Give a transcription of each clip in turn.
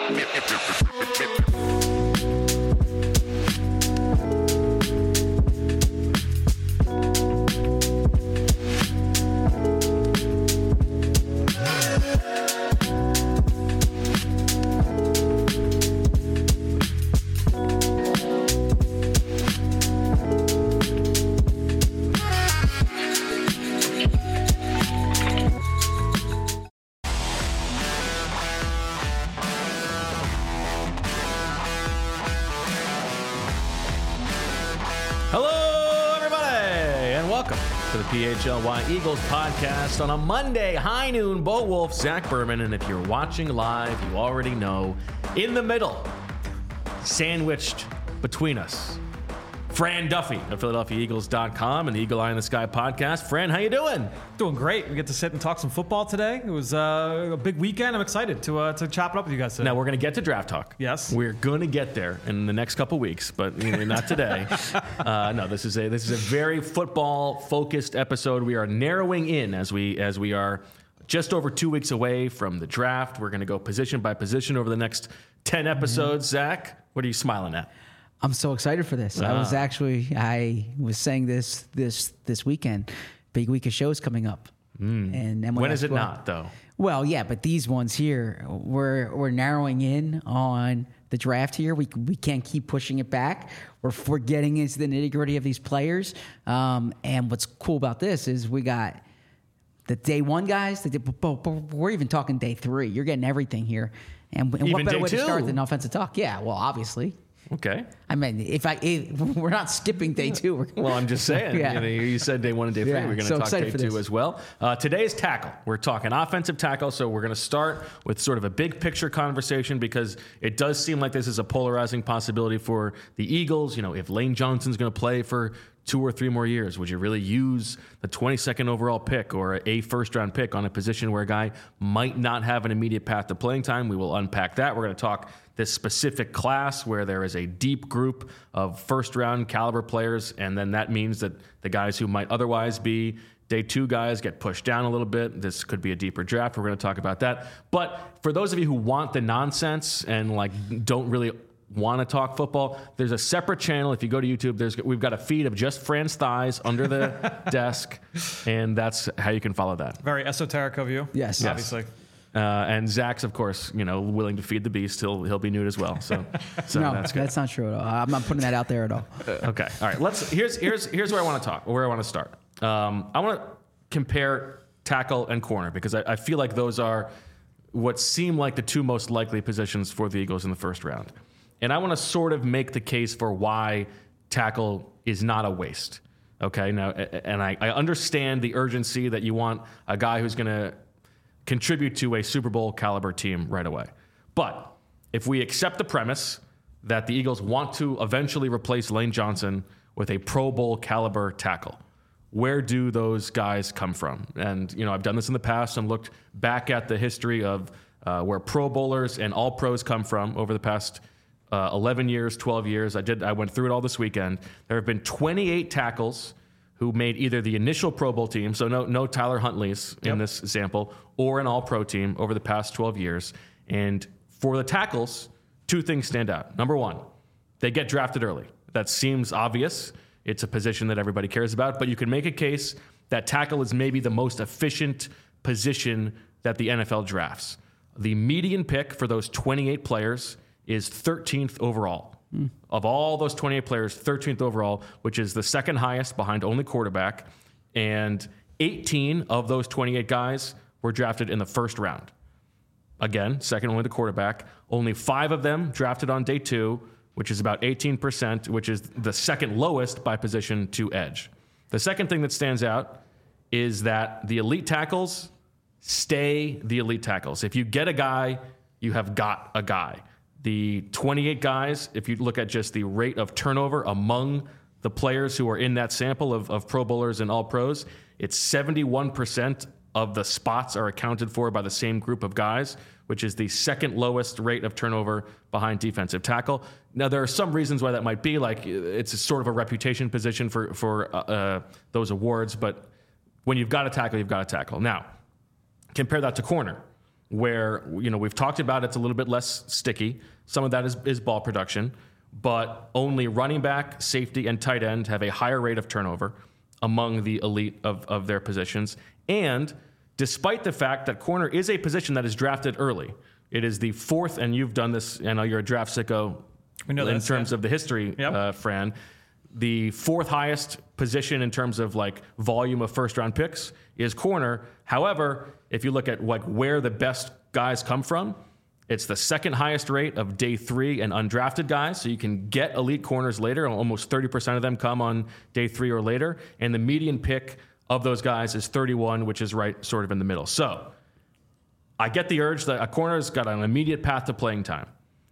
PHLY Eagles podcast on a Monday, high noon. Bo Wolf, Zach Berman, and if you're watching live, you already know, in the middle, sandwiched between us, Fran Duffy of PhiladelphiaEagles.com and the Eagle Eye in the Sky podcast. Fran, how you doing? Doing great. We get to sit and talk some football today. It was a big weekend. I'm excited to chop it up with you guys today. Now, we're going to get to draft talk. Yes. We're going to get there in the next couple weeks, but not today. No, this is a very football-focused episode. We are narrowing in as we are just over 2 weeks away from the draft. We're going to go position by position over the next 10 episodes. Zach, what are you smiling at? I'm so excited for this. I was saying this weekend. Big week of shows coming up. And when is it not, though? Well, yeah, but these ones here, we're narrowing in on the draft here. We can't keep pushing it back. We're getting into the nitty-gritty of these players. And what's cool about this is we got the day one guys. We're even talking day three. You're getting everything here. And what better way to start than offensive talk? Yeah, well, obviously. Okay. I mean, we're not skipping day two. Well, I'm just saying. Yeah. You said day one and day three. Yeah, We're going to talk day two as well. Today's tackle. We're talking offensive tackle, so we're going to start with sort of a big picture conversation because it does seem like this is a polarizing possibility for the Eagles. If Lane Johnson's going to play for 2 or 3 more years, would you really use the 22nd overall pick or a first-round pick on a position where a guy might not have an immediate path to playing time? We will unpack that. We're going to talk this specific class where there is a deep group of first-round caliber players, and then that means that the guys who might otherwise be day 2 guys get pushed down a little bit. This could be a deeper draft. We're going to talk about that. But for those of you who want the nonsense and don't really want to talk football, there's a separate channel. If you go to YouTube, we've got a feed of just Fran's thighs under the desk, and that's how you can follow that. Very esoteric of you. Yes. Obviously. And Zach's, of course, willing to feed the beast. He'll be nude as well. So no, that's good. That's not true at all. I'm not putting that out there at all. Okay. All right. Here's where I want to talk, or where I want to start. I want to compare tackle and corner because I feel like those are what seem like the 2 most likely positions for the Eagles in the first round. And I want to sort of make the case for why tackle is not a waste. Okay. Now, and I understand the urgency that you want a guy who's going to contribute to a Super Bowl caliber team right away. But if we accept the premise that the Eagles want to eventually replace Lane Johnson with a Pro Bowl caliber tackle, where do those guys come from? And, I've done this in the past and looked back at the history of where Pro Bowlers and All Pros come from over the past 11 years, 12 years. I went through it all this weekend. There have been 28 tackles who made either the initial Pro Bowl team, so no Tyler Huntley's in this sample, or an All-Pro team over the past 12 years. And for the tackles, 2 things stand out. Number 1, they get drafted early. That seems obvious. It's a position that everybody cares about, but you can make a case that tackle is maybe the most efficient position that the NFL drafts. The median pick for those 28 players is 13th overall. Of all those 28 players, 13th overall, which is the second highest behind only quarterback. And 18 of those 28 guys were drafted in the first round. Again, second only to quarterback. Only 5 of them drafted on day 2, which is about 18%, which is the second lowest by position to edge. The second thing that stands out is that the elite tackles stay the elite tackles. If you get a guy, you have got a guy. The 28 guys, if you look at just the rate of turnover among the players who are in that sample of Pro Bowlers and All Pros, it's 71% of the spots are accounted for by the same group of guys, which is the second lowest rate of turnover behind defensive tackle. Now, there are some reasons why that might be, like it's a sort of a reputation position for those awards, but when you've got a tackle, you've got a tackle. Now, compare that to corner. where, we've talked about it's a little bit less sticky. Some of that is ball production, but only running back, safety, and tight end have a higher rate of turnover among the elite of their positions. And despite the fact that corner is a position that is drafted early, it is the fourth, and you've done this, I know you're a draft sicko in terms of the history, Fran, the fourth highest position in terms of like volume of first round picks is corner. However, if you look at like where the best guys come from, it's the second highest rate of day 3 and undrafted guys. So you can get elite corners later. Almost 30% of them come on day 3 or later. And the median pick of those guys is 31, which is right sort of in the middle. So I get the urge that a corner's got an immediate path to playing time.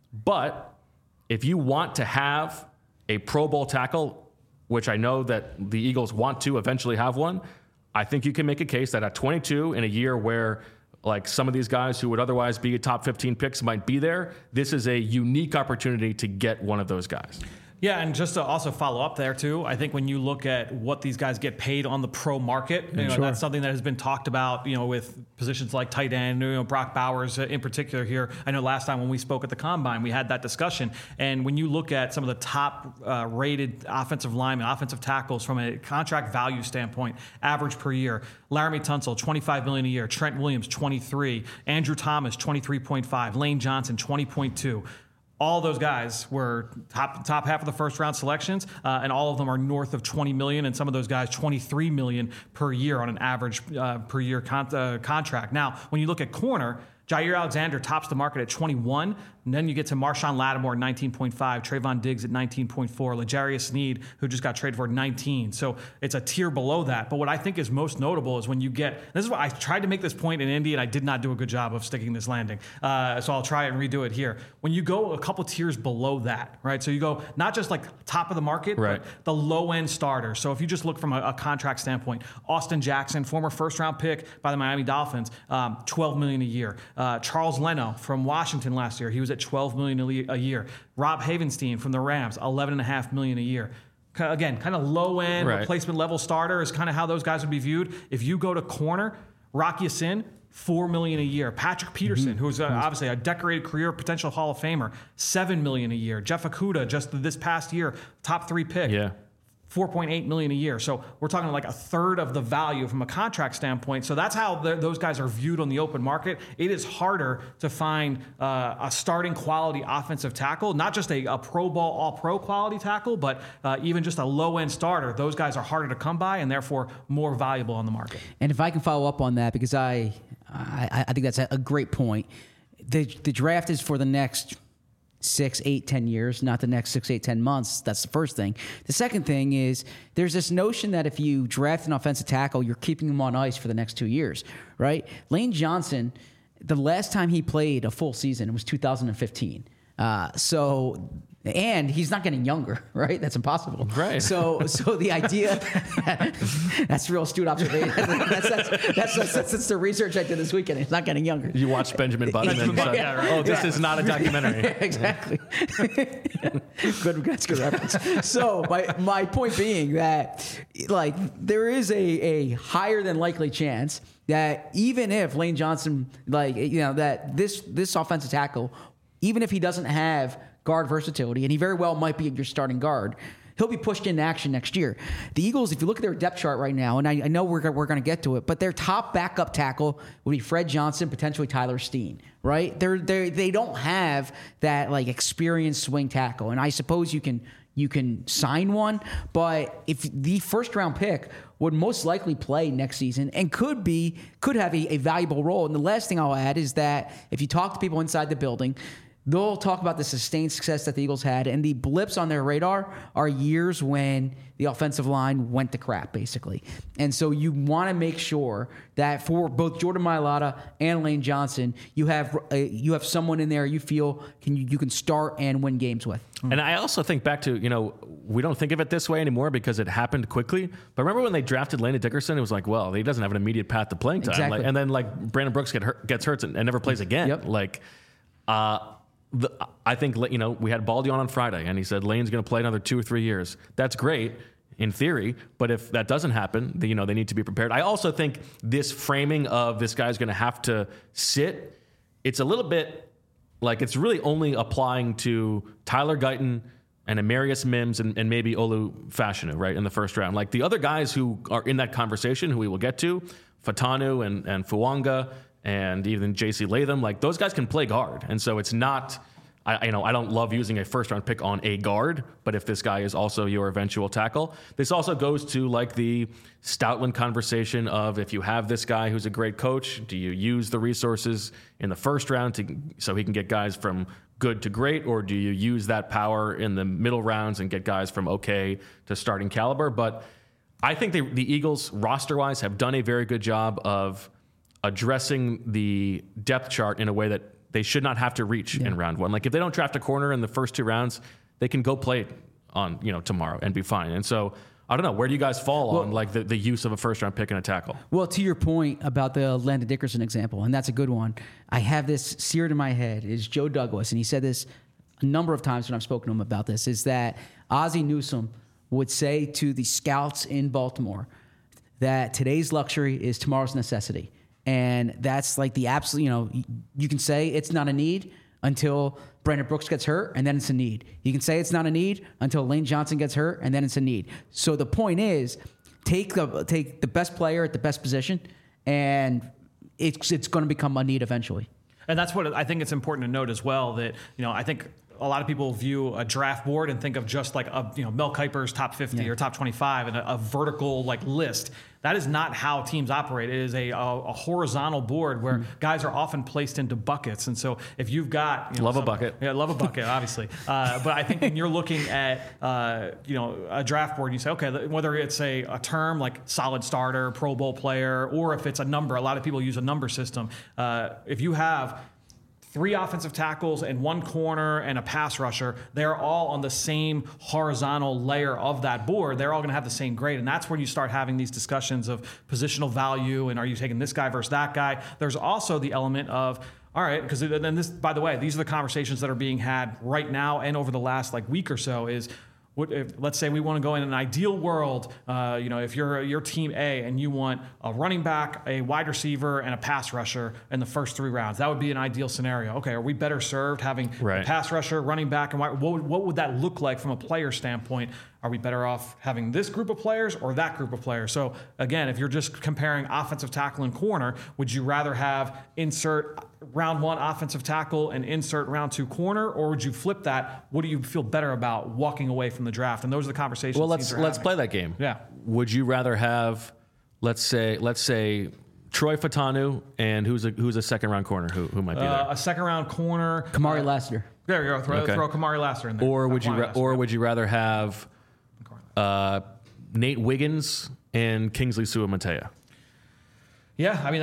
But if you want to have a Pro Bowl tackle, which I know that the Eagles want to eventually have one, I think you can make a case that at 22 in a year where like some of these guys who would otherwise be top 15 picks might be there, this is a unique opportunity to get one of those guys. Yeah, and just to also follow up there too, I think when you look at what these guys get paid on the pro market, that's something that has been talked about, with positions like tight end, Brock Bowers in particular here. I know last time when we spoke at the Combine, we had that discussion. And when you look at some of the top rated offensive linemen, offensive tackles from a contract value standpoint, average per year, Laramie Tunsil, $25 million a year, Trent Williams, $23, Andrew Thomas, $23.5, Lane Johnson, $20.2. All those guys were top half of the first round selections, and all of them are north of $20 million, and some of those guys $23 million per year on an average per year contract. Now, when you look at corner, Jair Alexander tops the market at 21, and then you get to Marshawn Lattimore at 19.5, Trayvon Diggs at 19.4, L'Jarius Sneed, who just got traded for 19. So it's a tier below that. But what I think is most notable is when you get, this is what I tried to make this point in Indy, and I did not do a good job of sticking this landing. So I'll try and redo it here. When you go a couple tiers below that, right? So you go not just like top of the market, right, but the low end starter. So if you just look from a contract standpoint, Austin Jackson, former first round pick by the Miami Dolphins, $12 million a year. Charles Leno from Washington last year, he was at $12 million a year. Rob Havenstein from the Rams, $11.5 million a year. Again, kind of low end replacement level starter is kind of how those guys would be viewed. If you go to corner, Rocky Sin, $4 million a year. Patrick Peterson, who's obviously a decorated career potential Hall of Famer, $7 million a year. Jeff Okudah, just this past year, top 3 pick. Yeah. $4.8 million a year. So we're talking like a third of the value from a contract standpoint. So that's how those guys are viewed on the open market. It is harder to find a starting quality offensive tackle, not just a Pro Bowl, all-pro quality tackle, but even just a low-end starter. Those guys are harder to come by and therefore more valuable on the market. And if I can follow up on that, because I think that's a great point. The draft is for the next 6, 8, 10 years, not the next 6, 8, 10 months. That's the first thing. The second thing is there's this notion that if you draft an offensive tackle, you're keeping him on ice for the next 2 years, right? Lane Johnson, the last time he played a full season was 2015. And he's not getting younger, right? That's impossible. Right. So the idea, that's real astute observation. That's the research I did this weekend. He's not getting younger. You watched Benjamin Button and said, oh, this is not a documentary. Exactly. That's good reference. So my point being that like there is a higher than likely chance that even if Lane Johnson, that this offensive tackle, even if he doesn't have guard versatility, and he very well might be your starting guard, he'll be pushed into action next year. The Eagles, if you look at their depth chart right now, and I know we're going to get to it, but their top backup tackle would be Fred Johnson, potentially Tyler Steen, right? They don't have that like experienced swing tackle, and I suppose you can sign one, but if the first round pick would most likely play next season and could have a valuable role. And the last thing I'll add is that if you talk to people inside the building, they'll talk about the sustained success that the Eagles had, and the blips on their radar are years when the offensive line went to crap, basically. And so you want to make sure that for both Jordan Mailata and Lane Johnson, you have someone in there you feel you can start and win games with. And I also think back to, we don't think of it this way anymore because it happened quickly. But remember when they drafted Landon Dickerson, it was like, well, he doesn't have an immediate path to playing time. Exactly. And then Brandon Brooks gets hurt and never plays again. Yep. I think, we had Baldy on Friday, and he said Lane's going to play another 2 or 3 years. That's great in theory, but if that doesn't happen, they need to be prepared. I also think this framing of this guy's going to have to sit it's a little bit like it's really only applying to Tyler Guyton and Amarius Mims and maybe Olu Fashanu, right, in the first round. Like the other guys who are in that conversation, who we will get to, Fatanu and Fuanga and even J.C. Latham, like those guys can play guard. And so it's not, I don't love using a first-round pick on a guard, but if this guy is also your eventual tackle, this also goes to like the Stoutland conversation of if you have this guy who's a great coach, do you use the resources in the first round so he can get guys from good to great, or do you use that power in the middle rounds and get guys from okay to starting caliber? But I think the Eagles, roster-wise, have done a very good job of addressing the depth chart in a way that they should not have to reach in round one. Like if they don't draft a corner in the first 2 rounds, they can go play it on tomorrow and be fine. And so I don't know, where do you guys fall on like the use of a first round pick and a tackle? Well, to your point about the Landon Dickerson example, and that's a good one. I have this seared in my head is Joe Douglas, and he said this a number of times when I've spoken to him about this, is that Ozzie Newsome would say to the scouts in Baltimore that today's luxury is tomorrow's necessity. And that's like the absolute, you can say it's not a need until Brandon Brooks gets hurt, and then it's a need. You can say it's not a need until Lane Johnson gets hurt, and then it's a need. So the point is, take the best player at the best position, and it's going to become a need eventually. And that's what I think it's important to note as well, that, I think a lot of people view a draft board and think of just like Mel Kiper's top 50 or top 25 and a vertical like list. That is not how teams operate. It is a horizontal board where guys are often placed into buckets. And so if you've got love a bucket, obviously. But I think when you're looking at a draft board, you say, okay, whether it's a term like solid starter, Pro Bowl player, or if it's a number, a lot of people use a number system. If you have 3 offensive tackles and 1 corner and a pass rusher, they're all on the same horizontal layer of that board. They're all going to have the same grade. And that's when you start having these discussions of positional value and are you taking this guy versus that guy? There's also the element of, all right, because then this, by the way, these are the conversations that are being had right now and over the last week or so is, let's say we want to go in an ideal world, if you're team A and you want a running back, a wide receiver, and a pass rusher in the first 3 rounds, that would be an ideal scenario. Okay, are we better served having a pass rusher, running back, and what would that look like from a player standpoint? Are we better off having this group of players or that group of players? So again, if you're just comparing offensive tackle and corner, would you rather have insert round 1 offensive tackle and insert round 2 corner, or would you flip that? What do you feel better about walking away from the draft? And those are the conversations. Well, let's play that game. Yeah. Would you rather have, let's say Troy Fatanu and who's a second round corner who might be there? A second round corner, Kamari Lassiter. There you go. Throw Kamari Lassiter in there. Or would you rather have Nate Wiggins and Kingsley Suamataia? Yeah, I mean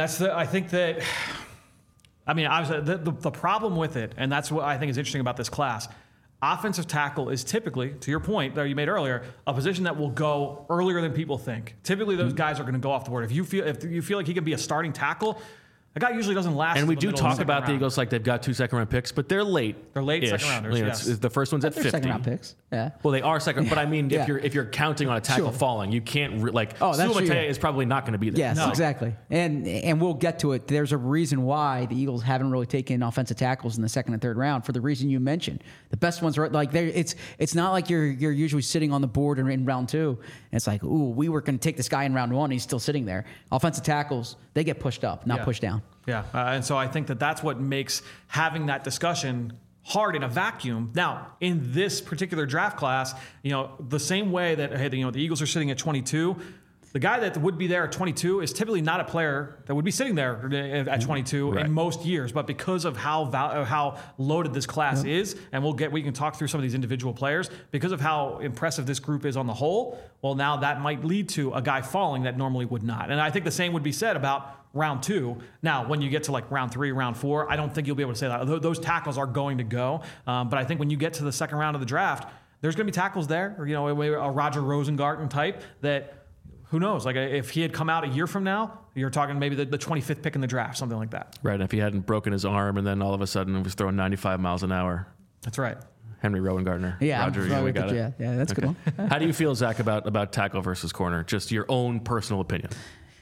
obviously the problem with it, and that's what I think is interesting about this class. Offensive tackle is typically, to your point that you made earlier, a position that will go earlier than people think. Typically, those guys are going to go off the board. If you feel like he could be a starting tackle, a guy usually doesn't last. And we do talk about the Eagles like they've got 2 second round picks, but they're late. They're late second rounders. Yes. The first one's at 50. Second round picks. Yeah. Well, they are second, but I mean, if you're counting on a tackle falling, you can't Suamataia is probably not going to be there. Yes, exactly. And we'll get to it. There's a reason why the Eagles haven't really taken offensive tackles in the second and third round for the reason you mentioned. The best ones are it's not like you're usually sitting on the board in round 2. And it's like, ooh, we were going to take this guy in round 1. He's still sitting there. Offensive tackles, they get pushed up, not pushed down. Yeah, and so I think that's what makes having that discussion hard in a vacuum. Now, in this particular draft class, the same way that the Eagles are sitting at 22, the guy that would be there at 22 is typically not a player that would be sitting there at 22 in most years. But because of how loaded this class is, and we can talk through some of these individual players, because of how impressive this group is on the whole, well, now that might lead to a guy falling that normally would not. And I think the same would be said about round 2. Now, when you get to round 3, round 4, I don't think you'll be able to say that. Those tackles are going to go. But I think when you get to the second round of the draft, there's going to be tackles there, or, a Roger Rosengarten type that, who knows? If he had come out a year from now, you're talking maybe the 25th pick in the draft, something like that. Right. And if he hadn't broken his arm and then all of a sudden was throwing 95 miles an hour. That's right. Henry Rowengartner. Yeah, Roger, we got it. Yeah, that's a good one. How do you feel, Zach, about tackle versus corner? Just your own personal opinion.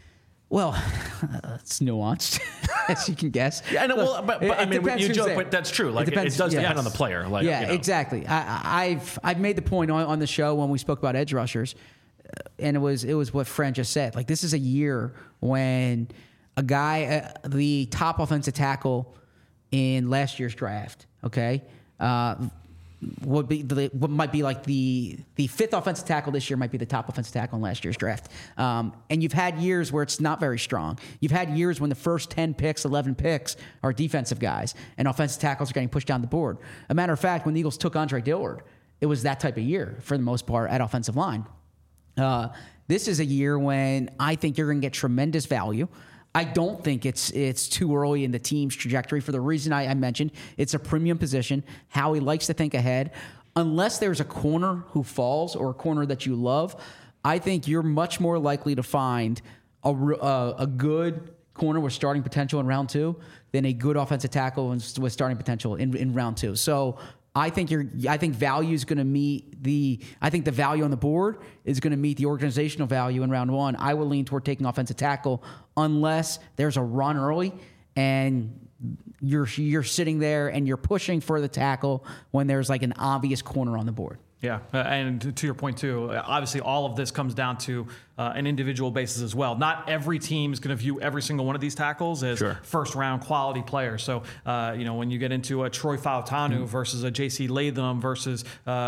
Well, it's nuanced, as you can guess. Yeah, I know. Well, but I mean, you joke, but that's true. Like, it does depend yes. on the player. Like, yeah, exactly. I've made the point on the show when we spoke about edge rushers, and it was what Fran just said. Like, this is a year when a guy, the top offensive tackle in last year's draft, okay, what might be like the fifth offensive tackle this year might be the top offensive tackle in last year's draft. And you've had years where it's not very strong. You've had years when the first 10 picks, 11 picks are defensive guys, and offensive tackles are getting pushed down the board. A matter of fact, when the Eagles took Andre Dillard, it was that type of year for the most part at offensive line. This is a year when I think you're going to get tremendous value. I don't think it's too early in the team's trajectory for the reason I mentioned. It's a premium position. Howie likes to think ahead. Unless there's a corner who falls or a corner that you love, I think you're much more likely to find a good corner with starting potential in round 2 than a good offensive tackle with starting potential in round 2. So I think value is going to meet the value on the board is going to meet the organizational value in round 1. I will lean toward taking offensive tackle unless there's a run early and you're sitting there and you're pushing for the tackle when there's like an obvious corner on the board. Yeah, and to your point too, obviously all of this comes down to an individual basis as well. Not every team is going to view every single one of these tackles as first-round quality players. So, when you get into a Troy Fautanu versus a J.C. Latham versus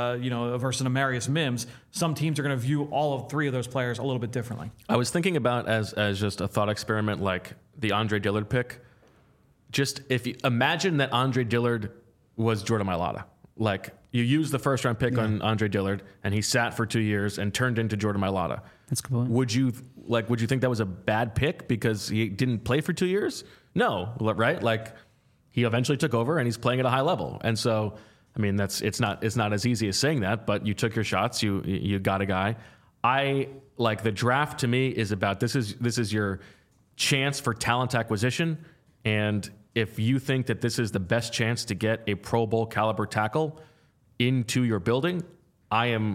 an Amarius Mims, some teams are going to view all of 3 of those players a little bit differently. I was thinking about as just a thought experiment, like the Andre Dillard pick. Just if you imagine that Andre Dillard was Jordan Mailata, like. You used the first-round pick on Andre Dillard, and he sat for 2 years and turned into Jordan Mailata. That's a good point. Would you think that was a bad pick because he didn't play for 2 years? No, right? Like, he eventually took over, and he's playing at a high level. And so, I mean, it's not as easy as saying that, but you took your shots. You got a guy. I like the draft. To me, is about this is your chance for talent acquisition, and if you think that this is the best chance to get a Pro Bowl caliber tackle into your building, I am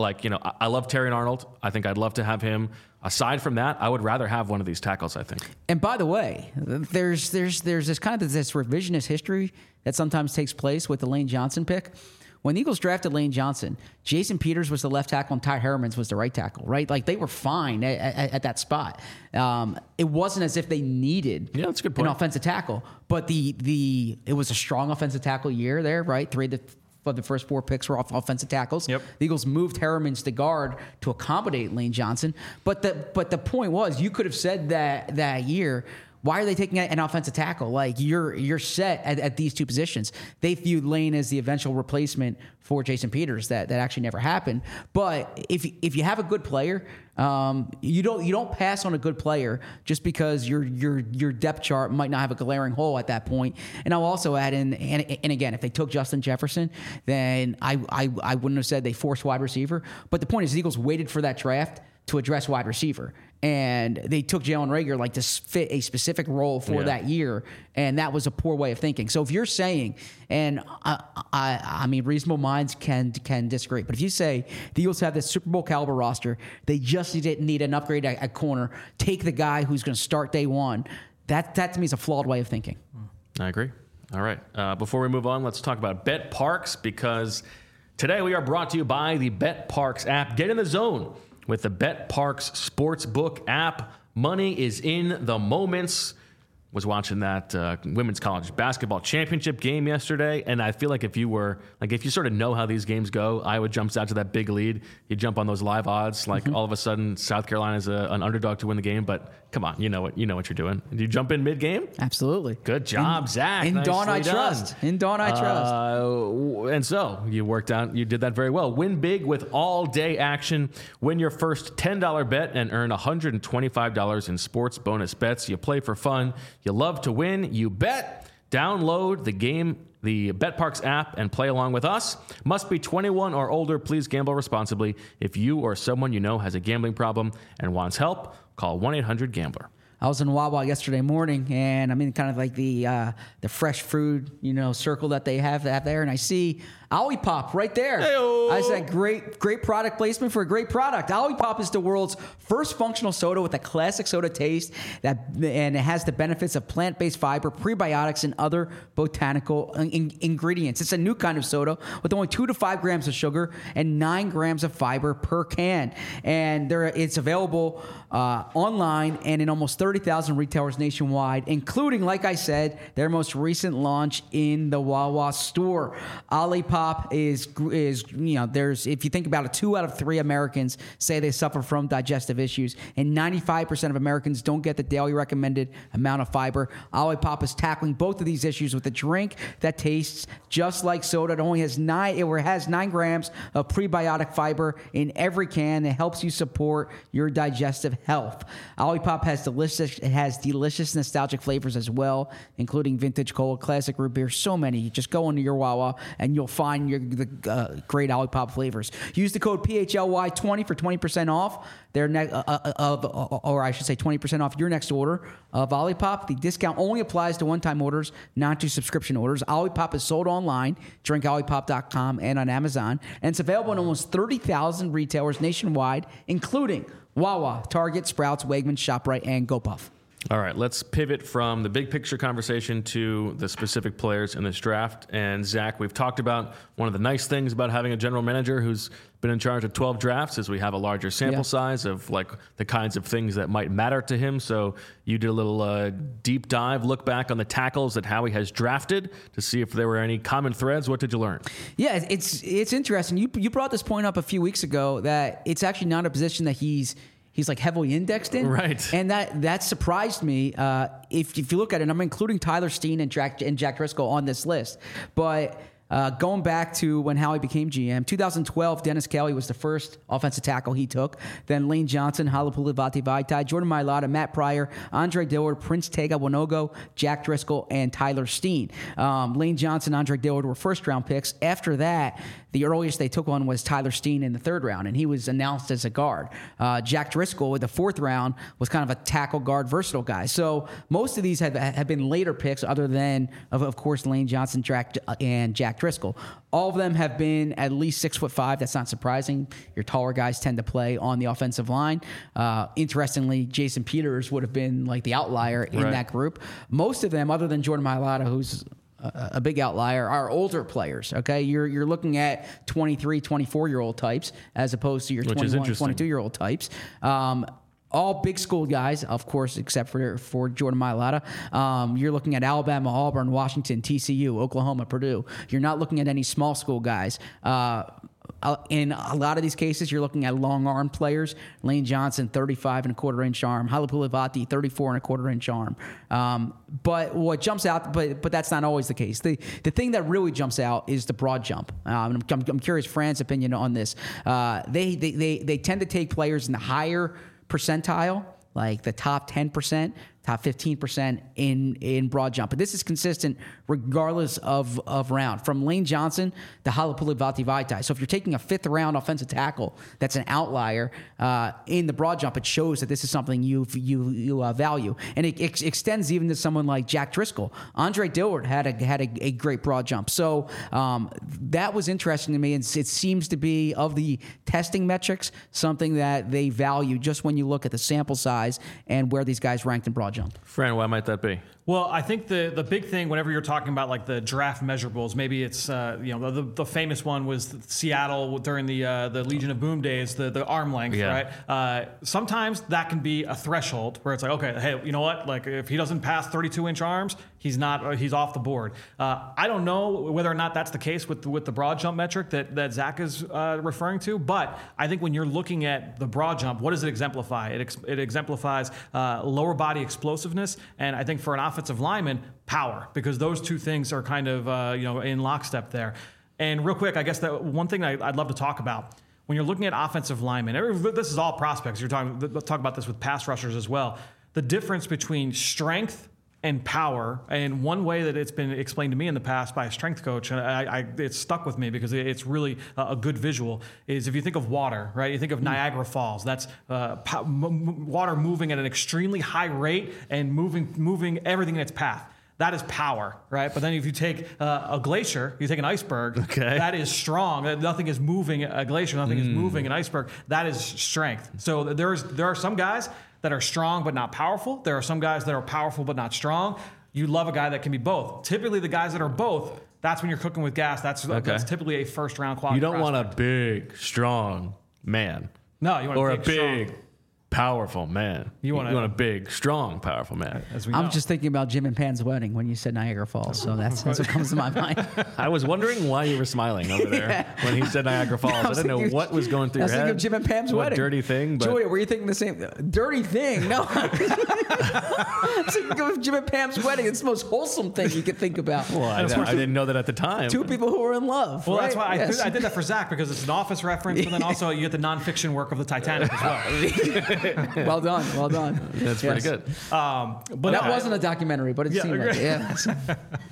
I love Terrion Arnold. I think I'd love to have him. Aside from that, I would rather have one of these tackles, I think. And by the way, there's this kind of this revisionist history that sometimes takes place with the Lane Johnson pick. When the Eagles drafted Lane Johnson, Jason Peters was the left tackle and Ty Hermans was the right tackle, right? Like, they were fine at that spot. It wasn't as if they needed that's a good point. An offensive tackle, but it was a strong offensive tackle year there, right? 3 of the first 4 picks were off offensive tackles. Yep. The Eagles moved Hermans to guard to accommodate Lane Johnson. But the point was, you could have said that year, why are they taking an offensive tackle? Like, you're set at these 2 positions. They viewed Lane as the eventual replacement for Jason Peters. That actually never happened. But if you have a good player, you don't pass on a good player just because your depth chart might not have a glaring hole at that point. And I'll also add in, and again, if they took Justin Jefferson, then I wouldn't have said they forced wide receiver. But the point is, the Eagles waited for that draft to address wide receiver. And they took Jalen Reagor to fit a specific role for that year, and that was a poor way of thinking. So if you're saying, and I mean, reasonable minds can disagree, but if you say the Eagles have this Super Bowl caliber roster, they just need an upgrade at corner, take the guy who's going to start day one, that to me is a flawed way of thinking. I agree. All right. Before we move on, let's talk about BetParx, because today we are brought to you by the BetParx app. Get in the zone with the BetParx Sportsbook app. Money is in the moments. Was watching that women's college basketball championship game yesterday, and I feel like if you sort of know how these games go, Iowa jumps out to that big lead, you jump on those live odds, like all of a sudden South Carolina is an underdog to win the game. But come on, you know what you're doing. Did you jump in mid game? Absolutely. Good job, Zach. In Dawn I trust. In Dawn I trust. And so you did that very well. Win big with all day action. Win your first $10 bet and earn $125 in sports bonus bets. You play for fun. You love to win. You bet. Download the BetParx app, and play along with us. Must be 21 or older. Please gamble responsibly. If you or someone you know has a gambling problem and wants help, call 1-800-GAMBLER. I was in Wawa yesterday morning, and I'm in kind of like the fresh food, circle that they have there, and I see Olipop, right there. Hey-o. I said great product placement for a great product. Olipop is the world's first functional soda with a classic soda taste and it has the benefits of plant-based fiber, prebiotics, and other botanical ingredients. It's a new kind of soda with only 2 to 5 grams of sugar and 9 grams of fiber per can. And it's available online and in almost 30,000 retailers nationwide, including, like I said, their most recent launch in the Wawa store. Olipop is there's, if you think about it, 2 out of 3 Americans say they suffer from digestive issues, and 95% of Americans don't get the daily recommended amount of fiber. Olipop is tackling both of these issues with a drink that tastes just like soda. It only has 9 grams of prebiotic fiber in every can. It helps you support your digestive health. Olipop has delicious nostalgic flavors as well, including vintage cola, classic root beer, so many. Just go into your Wawa and you'll find the great Olipop flavors. Use the code PHLY20 for 20% off their 20% off your next order of Olipop. The discount only applies to one-time orders, not to subscription orders. Olipop is sold online, drinkolipop.com, and on Amazon, and it's available in almost 30,000 retailers nationwide, including Wawa, Target, Sprouts, Wegmans, ShopRite, and GoPuff. All right, let's pivot from the big picture conversation to the specific players in this draft. And Zach, we've talked about one of the nice things about having a general manager who's been in charge of 12 drafts is we have a larger sample size of like the kinds of things that might matter to him. So you did a little deep dive, look back on the tackles that Howie has drafted to see if there were any common threads. What did you learn? Yeah, it's interesting. You brought this point up a few weeks ago that it's actually not a position that he's like heavily indexed in. Right. And that surprised me. If you look at it, I'm including Tyler Steen and Jack Driscoll on this list. But going back to when Howie became GM, 2012, Dennis Kelly was the first offensive tackle he took. Then Lane Johnson, Halapoulivaati Vaitai, Jordan Mailata, Matt Pryor, Andre Dillard, Prince Tega Wanogo, Jack Driscoll, and Tyler Steen. Lane Johnson, Andre Dillard were first-round picks. After that, the earliest they took one was Tyler Steen in the 3rd round, and he was announced as a guard. Jack Driscoll, in the 4th round, was kind of a tackle guard versatile guy. So most of these have been later picks, other than, of course, Lane Johnson and Jack Driscoll. All of them have been at least 6'5". That's not surprising. Your taller guys tend to play on the offensive line. Interestingly, Jason Peters would have been like the outlier in that group. Most of them, other than Jordan Mailata, who's a big outlier, are older players. Okay, you're looking at 23, 24-year-old types as opposed to your 21, 22-year-old types. All big school guys, of course, except for Jordan Mailata. You're looking at Alabama, Auburn, Washington, TCU, Oklahoma, Purdue. You're not looking at any small school guys. In a lot of these cases, you're looking at long arm players. Lane Johnson, 35.25-inch arm. Halapoulivaati, 34.25-inch arm. But what jumps out, but that's not always the case. The thing that really jumps out is the broad jump. I'm curious Fran's opinion on this. They tend to take players in the higher percentile, like the top 10%, top 15% in broad jump. But this is consistent regardless of round. From Lane Johnson to Halapoulivaati Vaitai. So if you're taking a 5th round offensive tackle that's an outlier in the broad jump, it shows that this is something you value. And it extends even to someone like Jack Driscoll. Andre Dillard had a great broad jump. So that was interesting to me. And it seems to be, of the testing metrics, something that they value just when you look at the sample size and where these guys ranked in broad jump. Fran, why might that be? Well, I think the big thing whenever you're talking about like the draft measurables, maybe it's the famous one was Seattle during the Legion of Boom days, the arm length, right? Sometimes that can be a threshold where it's like, okay, hey, you know what? Like if he doesn't pass 32-inch arms, he's off the board. I don't know whether or not that's the case with the broad jump metric that Zach is referring to, but I think when you're looking at the broad jump, what does it exemplify? It exemplifies lower body explosiveness, and I think for an offensive lineman, power, because those two things are kind of in lockstep there. And real quick, I guess that one thing I'd love to talk about when you're looking at offensive linemen, this is all prospects. You're talking about this with pass rushers as well. The difference between strength and power, and one way that it's been explained to me in the past by a strength coach, and it's stuck with me because it's really a good visual, is if you think of water, right? You think of Niagara Falls. That's water moving at an extremely high rate and moving everything in its path. that is power, right? But then if you take a glacier, you take an iceberg, that is strong. Nothing is moving a glacier, nothing is moving an iceberg. That is strength. So there are some guys that are strong but not powerful. There are some guys that are powerful but not strong. You love a guy that can be both. Typically, the guys that are both, that's when you're cooking with gas. That's typically a first-round quality. You don't prospect. want a big, strong man. No, you want or a a big, strong. Powerful man. You want a big, strong, powerful man. As we know. I'm just thinking about Jim and Pam's wedding when you said Niagara Falls. So that's what comes to my mind. I was wondering why you were smiling over there when he said Niagara Falls. I didn't know what was going through your head. I was thinking of Jim and Pam's what wedding. Dirty thing. But Julia, were you thinking the same? Dirty thing? No. I was thinking of Jim and Pam's wedding. It's the most wholesome thing you could think about. Well, I didn't know that at the time. Two people who were in love. Well, right? that's why Yes. I did that for Zach, because it's an Office reference, but then also you get the nonfiction work of the Titanic as well. Well done. Well done. That's pretty good. But That wasn't a documentary, but it seemed like it. Yeah.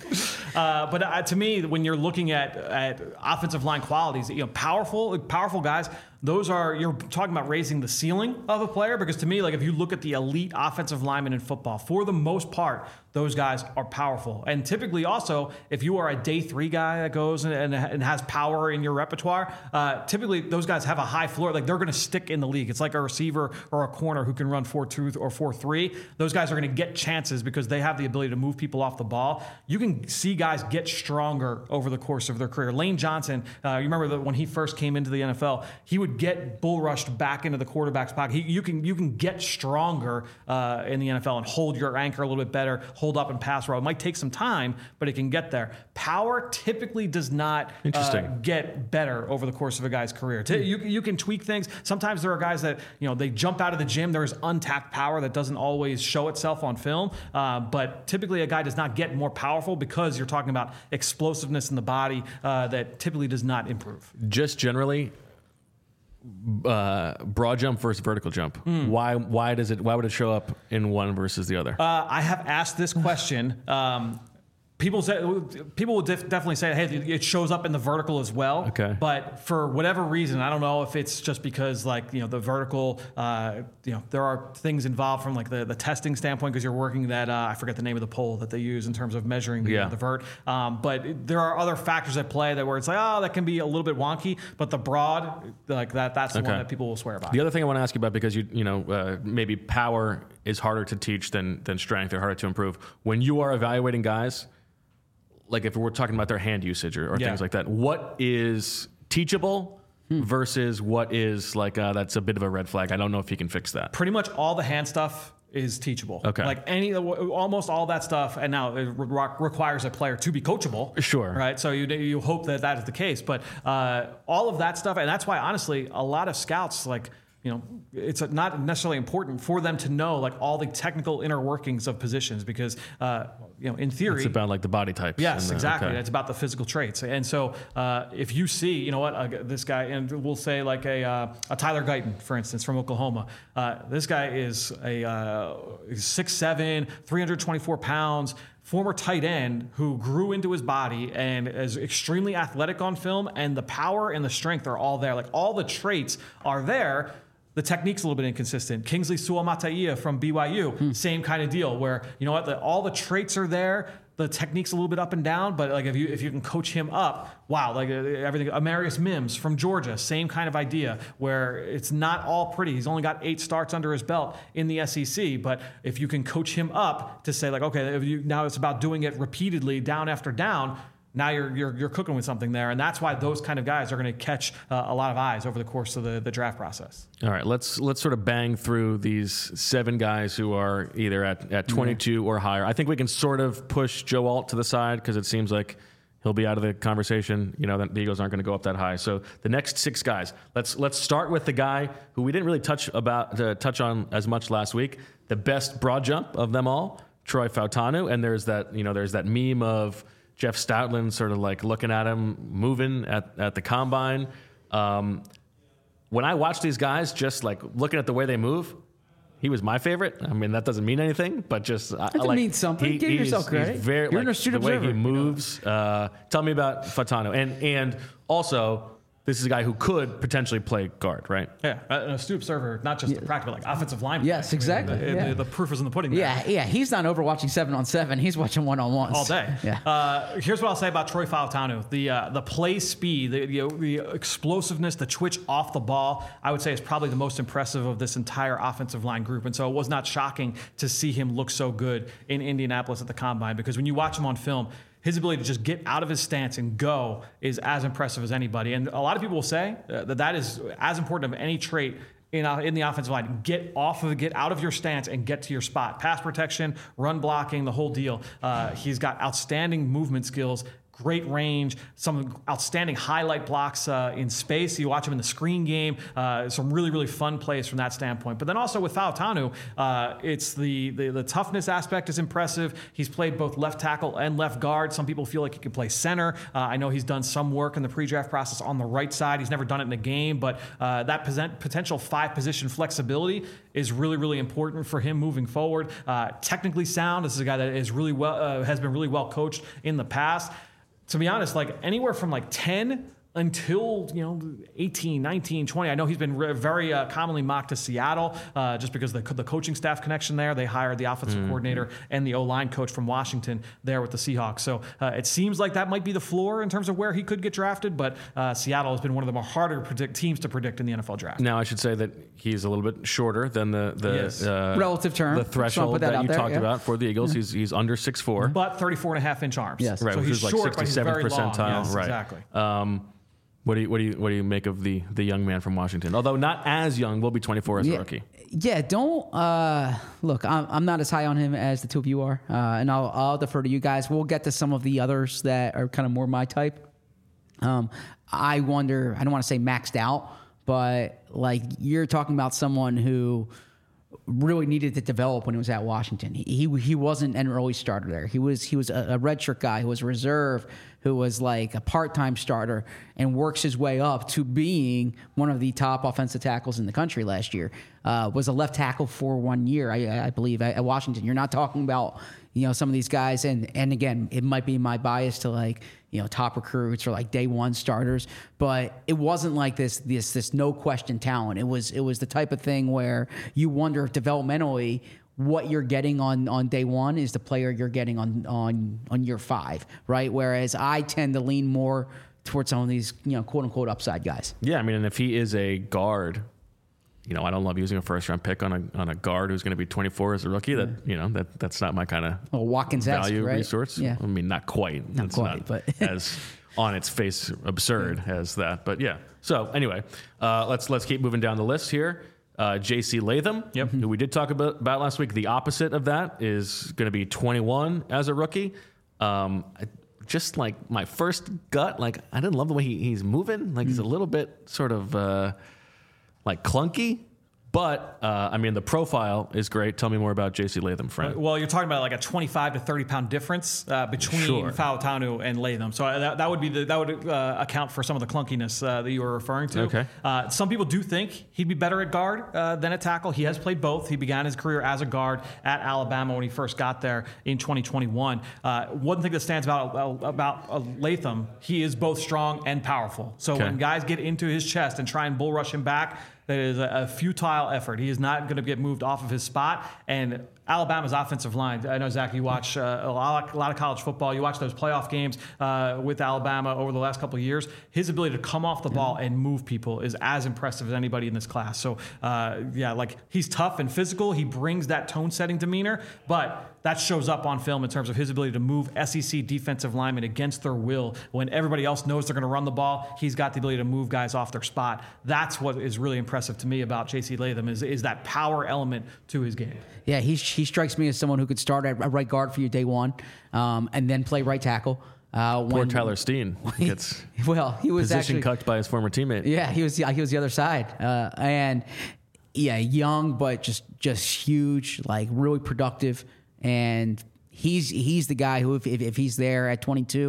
But to me, when you're looking at offensive line qualities, powerful guys, you're talking about raising the ceiling of a player. Because to me, like if you look at the elite offensive linemen in football, for the most part, those guys are powerful. And typically also, if you are a day 3 guy that goes and has power in your repertoire, typically those guys have a high floor. Like they're going to stick in the league. It's like a receiver or a corner who can run 4.2 or 4.3. Those guys are going to get chances because they have the ability to move people off the ball. You can see guys get stronger over the course of their career. Lane Johnson, you remember that when he first came into the NFL, he would get bull rushed back into the quarterback's pocket. You can get stronger in the NFL and hold your anchor a little bit better, hold up and pass route. It might take some time, but it can get there. Power typically does not get better over the course of a guy's career. You can tweak things. Sometimes there are guys that they jump out of the gym. There is untapped power that doesn't always show itself on film, but typically a guy does not get more powerful because you're talking about explosiveness in the body that typically does not improve. Just generally, broad jump versus vertical jump. Why would it show up in one versus the other? I have asked this question. People will definitely say, hey, it shows up in the vertical as well. Okay. But for whatever reason, I don't know if it's just because the vertical, there are things involved from like the testing standpoint because you're working that, I forget the name of the pole that they use in terms of measuring the vert. But there are other factors at play where it's like, that can be a little bit wonky, but the broad, like that's the one that people will swear by. The other thing I want to ask you about, because maybe power is harder to teach than strength, or harder to improve. When you are evaluating guys, like if we're talking about their hand usage or things like that, what is teachable versus what is like, that's a bit of a red flag? I don't know if you can fix that. Pretty much all the hand stuff is teachable. Okay. Like almost all that stuff, and now it requires a player to be coachable. Sure. Right. So you hope that is the case, but all of that stuff, and that's why honestly, a lot of scouts it's not necessarily important for them to know like all the technical inner workings of positions because, in theory, it's about like the body types. Yes, exactly. Okay. It's about the physical traits. And so if you see, this guy, and we'll say like a Tyler Guyton, for instance, from Oklahoma. This guy is a 6'7", 324 pounds, former tight end who grew into his body and is extremely athletic on film, and the power and the strength are all there. Like all the traits are there. The technique's a little bit inconsistent. Kingsley Suamataia from BYU, same kind of deal where, all the traits are there. The technique's a little bit up and down, but like if you can coach him up, wow, like everything. Amarius Mims from Georgia, same kind of idea where it's not all pretty. He's only got 8 starts under his belt in the SEC, but if you can coach him up to say like, okay, now it's about doing it repeatedly, down after down. Now you're cooking with something there, and that's why those kind of guys are going to catch a lot of eyes over the course of the draft process. All right, let's sort of bang through these 7 guys who are either at 22 or higher. I think we can sort of push Joe Alt to the side because it seems like he'll be out of the conversation. The Eagles aren't going to go up that high. So the next 6 guys. Let's start with the guy who we didn't really touch on as much last week. The best broad jump of them all, Troy Fautanu, and there's that meme of Jeff Stoutland sort of like looking at him moving at the combine. When I watch these guys, just like looking at the way they move, he was my favorite. I mean, that doesn't mean anything, but just that means something. Give yourself credit. You're an astute the observer. way he moves. Tell me about Fautanu, and also this is a guy who could potentially play guard, right? Yeah, an astute observer, not just the practical, like offensive line. Yes, exactly. The proof is in the pudding. There. Yeah. He's not over watching 7-on-7. He's watching 1-on-1s all day. Yeah. Here's what I'll say about Troy Fautanu: the play speed, the explosiveness, the twitch off the ball. I would say is probably the most impressive of this entire offensive line group. And so it was not shocking to see him look so good in Indianapolis at the Combine, because when you watch him on film, his ability to just get out of his stance and go is as impressive as anybody. And a lot of people will say that is as important of any trait in the offensive line. Get out of your stance and get to your spot. Pass protection, run blocking, the whole deal. He's got outstanding movement skills, great range, some outstanding highlight blocks in space. You watch him in the screen game, some really, really fun plays from that standpoint. But then also with Fautanu, it's the toughness aspect is impressive. He's played both left tackle and left guard. Some people feel like he can play center. I know he's done some work in the pre-draft process on the right side. He's never done it in a game, but that potential 5-position flexibility is really, really important for him moving forward. Technically sound. This is a guy that is really well has been really well coached in the past. To be honest, like anywhere from like 10 until 18, 19, 20. I know he's been very commonly mocked to Seattle just because the coaching staff connection there. They hired the offensive coordinator and the O-line coach from Washington there with the Seahawks. So it seems like that might be the floor in terms of where he could get drafted, but Seattle has been one of the more harder teams to predict in the NFL draft. Now, I should say that he's a little bit shorter than the relative term, the threshold that you talked about for the Eagles. He's under 6'4", but 34.5-inch arms. Yes, right, so which he's is short, like 67th percentile. Yes, right, exactly. What do you make of the young man from Washington? Although not as young, will be 24 as a rookie. Yeah, don't look. I'm not as high on him as the two of you are, and I'll defer to you guys. We'll get to some of the others that are kind of more my type. I wonder. I don't want to say maxed out, but like you're talking about someone who really needed to develop when he was at Washington. He wasn't an early starter there. He was a redshirt guy who was a reserve, who was like a part-time starter and works his way up to being one of the top offensive tackles in the country last year. Was a left tackle for 1 year, I believe, at Washington. You're not talking about some of these guys, and again, it might be my bias to like top recruits or like day one starters, but it wasn't like this no question talent. It was the type of thing where you wonder if developmentally what you're getting on day one is the player you're getting on year 5, right? Whereas I tend to lean more towards some of these quote unquote upside guys. Yeah, I mean, and if he is a guard, I don't love using a first round pick on a guard who's going to be 24 as a rookie. That's not my kind of value resource. Yeah. I mean, not quite. Not quite, but as on its face absurd as that. But yeah. So anyway, let's keep moving down the list here. J.C. Latham, who we did talk about last week. The opposite of that is going to be 21 as a rookie. Just like my first gut, like I didn't love the way he's moving. Like he's a little bit sort of like clunky. But, I mean, the profile is great. Tell me more about J.C. Latham, friend. Well, you're talking about like a 25 to 30 pound difference between Fautanu and Latham. So that would account for some of the clunkiness that you were referring to. Okay. Some people do think he'd be better at guard than at tackle. He has played both. He began his career as a guard at Alabama when he first got there in 2021. One thing that stands out about Latham, he is both strong and powerful. So when guys get into his chest and try and bull rush him back, that is a futile effort. He is not going to get moved off of his spot. And Alabama's offensive line, I know, Zach, you watch a lot of college football. You watch those playoff games with Alabama over the last couple of years. His ability to come off the ball and move people is as impressive as anybody in this class. So, like he's tough and physical. He brings that tone-setting demeanor, but that shows up on film in terms of his ability to move SEC defensive linemen against their will. When everybody else knows they're going to run the ball, he's got the ability to move guys off their spot. That's what is really impressive to me about J.C. Latham is that power element to his game. Yeah, he strikes me as someone who could start at right guard for you day one, and then play right tackle. Poor Tyler Steen gets he was position cucked by his former teammate. Yeah, he was the other side, and young but just huge, like really productive, and he's the guy who if he's there at 22.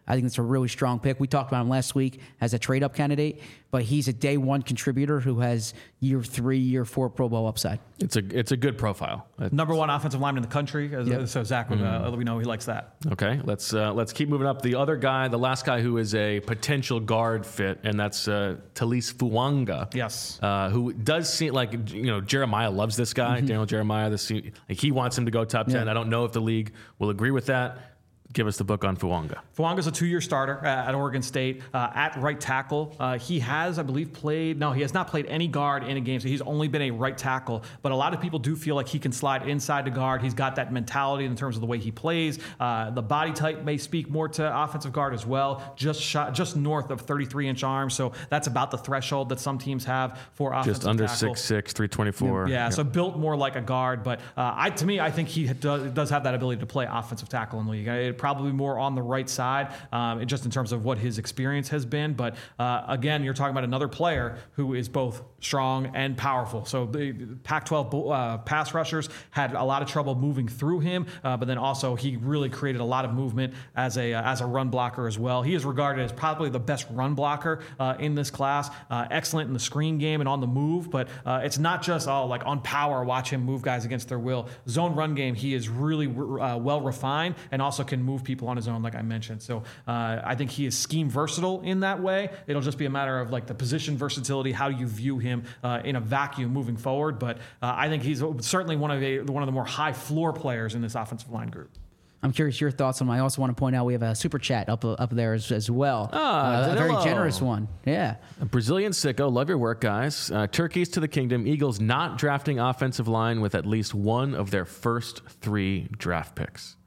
I think it's a really strong pick. We talked about him last week as a trade-up candidate, but he's a day one contributor who has year 3, year 4 Pro Bowl upside. It's a good profile. Number 1 offensive lineman in the country. So Zach, we know he likes that. Okay, let's keep moving up. The other guy, the last guy who is a potential guard fit, and that's Talise Fuanga. Yes. Who does seem like, Jeremiah loves this guy, Daniel Jeremiah. He wants him to go top 10. I don't know if the league will agree with that. Give us the book on Fuanga. Fuanga's a 2-year starter at Oregon State at right tackle. He has, I believe, he has not played any guard in a game, so he's only been a right tackle. But a lot of people do feel like he can slide inside the guard. He's got that mentality in terms of the way he plays. The body type may speak more to offensive guard as well. Just north of 33-inch arms, so that's about the threshold that some teams have for offensive tackle. Just under 6'6", 324. Yeah, so built more like a guard. But to me, I think he does have that ability to play offensive tackle in the league. Probably more on the right side, just in terms of what his experience has been. But again, you're talking about another player who is both strong and powerful. So the Pac-12 pass rushers had a lot of trouble moving through him, but then also he really created a lot of movement as a run blocker as well. He is regarded as probably the best run blocker in this class. Excellent in the screen game and on the move, but it's not just like on power, watch him move guys against their will. Zone run game, he is really well refined and also can move people on his own, like I mentioned. So I think he is scheme versatile in that way. It'll just be a matter of like the position versatility, how you view him in a vacuum moving forward. But I think he's certainly one of the more high floor players in this offensive line group. I'm curious your thoughts on him. I also want to point out we have a super chat up there as well. A very generous one. Yeah. A Brazilian sicko. Love your work, guys. Turkeys to the kingdom. Eagles not drafting offensive line with at least one of their first 3 draft picks.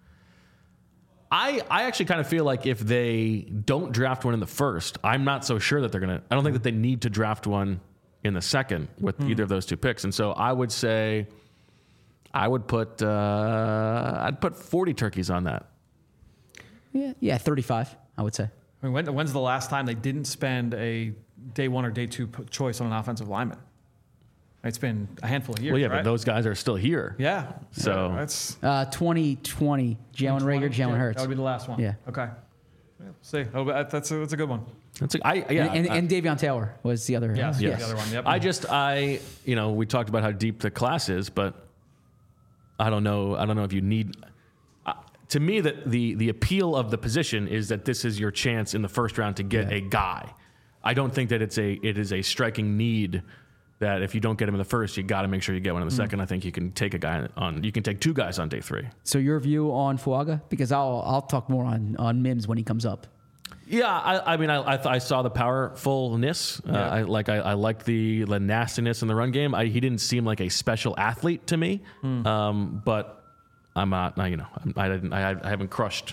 I actually kind of feel like if they don't draft one in the first, I'm not so sure that they're going to. I don't think that they need to draft one in the second with either of those 2 picks. And so I would say I'd put 40 turkeys on that. Yeah, 35, I would say. I mean, when's the last time they didn't spend a day 1 or day 2 choice on an offensive lineman? It's been a handful of years. Well, yeah, right? But those guys are still here. Yeah. So that's 2020. Jalen Reagor, Jalen Hurts. That would be the last one. Yeah. Okay. We'll see. That's a good one. And Davion Taylor was the other. Yes. The other one. Yep. We talked about how deep the class is, but I don't know if you need. To me, that the appeal of the position is that this is your chance in the first round to get a guy. I don't think that it is a striking need that if you don't get him in the first, you got to make sure you get one in the second. I think you can take you can take 2 guys on day 3. So your view on Fuanga? Because I'll talk more on Mims when he comes up. Yeah, I saw the powerfulness. I liked the nastiness in the run game. He didn't seem like a special athlete to me, but I'm not. I haven't crushed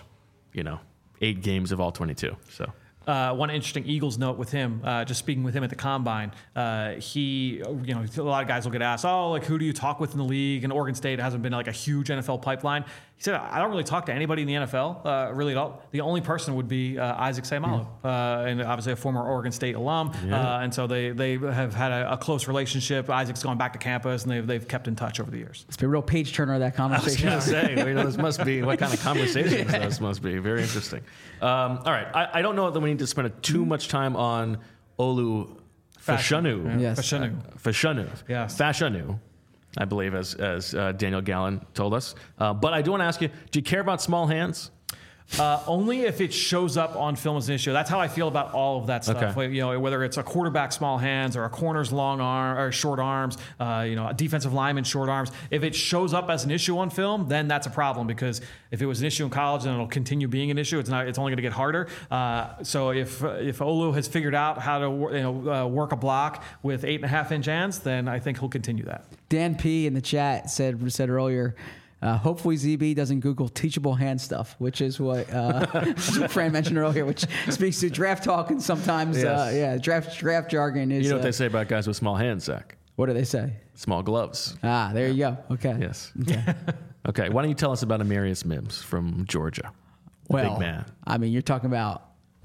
8 games of all 22. So. One interesting Eagles note with him, just speaking with him at the Combine, he, a lot of guys will get asked, who do you talk with in the league? And Oregon State hasn't been like a huge NFL pipeline. He said, I don't really talk to anybody in the NFL, really at all. The only person would be Isaac Seumalo, and obviously a former Oregon State alum. Yeah. And so they have had a close relationship. Isaac's gone back to campus, and they've kept in touch over the years. It's been a real page turner of that conversation. I was going to say, this must be, what kind of conversations this must be. Very interesting. All right. I don't know that we need to spend too much time on Olu Fashanu. Yes. Fashanu. Yes. Fashanu, I believe, as Daniel Gallen told us. But I do want to ask you, do you care about small hands? Only if it shows up on film as an issue. That's how I feel about all of that stuff. Okay. Whether it's a quarterback small hands or a corner's long arm or short arms, a defensive lineman short arms. If it shows up as an issue on film, then that's a problem, because if it was an issue in college, then it'll continue being an issue. It's only going to get harder. So if Olu has figured out how to work a block with 8.5-inch hands, then I think he'll continue that. Dan P in the chat said earlier. Hopefully ZB doesn't Google teachable hand stuff, which is what Fran mentioned earlier, which speaks to draft talk and sometimes, draft jargon is. You know what they say about guys with small hands, Zach? What do they say? Small gloves. There you go. Okay. Yes. Okay. Why don't you tell us about Amarius Mims from Georgia? Big man. I mean, you're talking about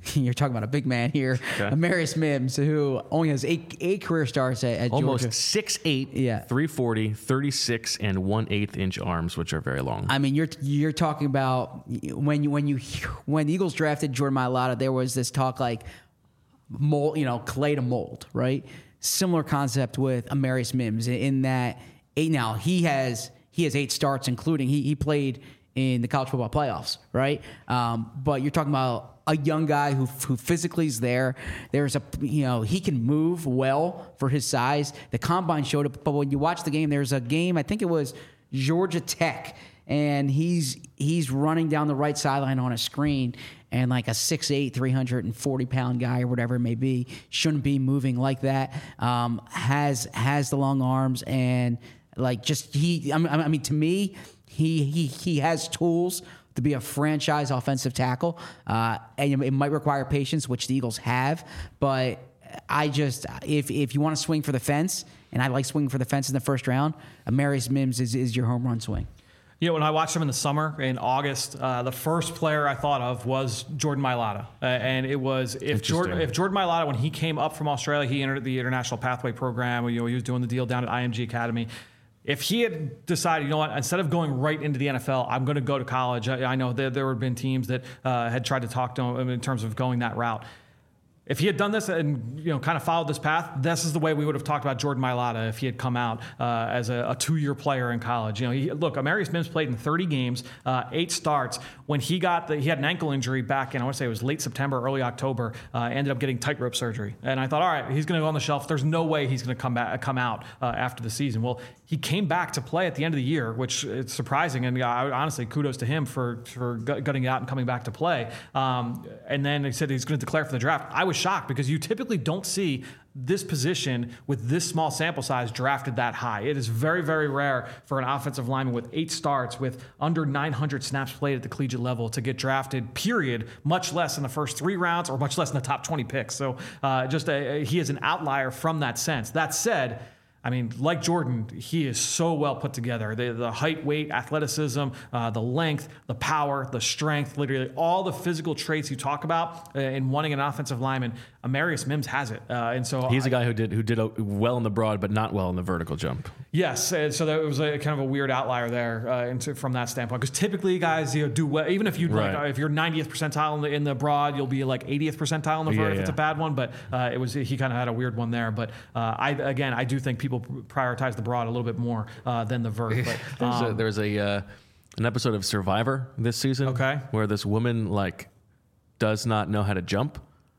You're talking about a big man here, Amarius Mims, who only has eight career starts at almost Georgia. 6'8", Yeah. 340, 36 and 1/8 inch arms, which are very long. I mean, you're talking about when the Eagles drafted Jordan Mailata, there was this talk like mold, clay to mold, right? Similar concept with Amarius Mims in that now he has 8 starts, including he played in the college football playoffs, right? But you're talking about a young guy who physically is there. There's he can move well for his size. The combine showed it, but when you watch the game, there's a game, I think it was Georgia Tech, and he's running down the right sideline on a screen, and like a 6'8", 340-pound guy or whatever it may be shouldn't be moving like that. Has the long arms and like just to me, he has tools to be a franchise offensive tackle, and it might require patience, which the Eagles have. But if you want to swing for the fence, and I like swinging for the fence in the first round, Amarius Mims is your home run swing. When I watched him in the summer, in August, the first player I thought of was Jordan Mailata. And it was, if Jordan Mailata, when he came up from Australia, he entered the International Pathway Program. He was doing the deal down at IMG Academy. If he had decided, instead of going right into the NFL, I'm going to go to college. I know there had been teams that had tried to talk to him in terms of going that route. If he had done this and kind of followed this path, this is the way we would have talked about Jordan Mailata if he had come out as a 2-year player in college. Amarius Mims played in 30 games, 8 starts. When he had an ankle injury back in, I want to say it was late September, early October. Ended up getting tightrope surgery, and I thought, all right, he's going to go on the shelf. There's no way he's going to come out after the season. Well, he came back to play at the end of the year, which is surprising, and honestly, kudos to him for gutting it out and coming back to play. And then he said he's going to declare for the draft. I was shocked because you typically don't see this position with this small sample size drafted that high. It is very, very rare for an offensive lineman with 8 starts, with under 900 snaps played at the collegiate level to get drafted, period, much less in the first 3 rounds or much less in the top 20 picks. So he is an outlier from that sense. That said, like Jordan, he is so well put together. The height, weight, athleticism, the length, the power, the strength, literally all the physical traits you talk about in wanting an offensive lineman, Amarius Mims has it. And so he's a guy who did well in the broad, but not well in the vertical jump. Yes, and so that was a kind of a weird outlier there from that standpoint. Because typically, guys, do well. Even if if you're 90th percentile in the broad, you'll be like 80th percentile in the vert if it's a bad one. But he kind of had a weird one there. But I do think people prioritize the broad a little bit more than the vert. But there's an episode of Survivor this season, where this woman does not know how to jump.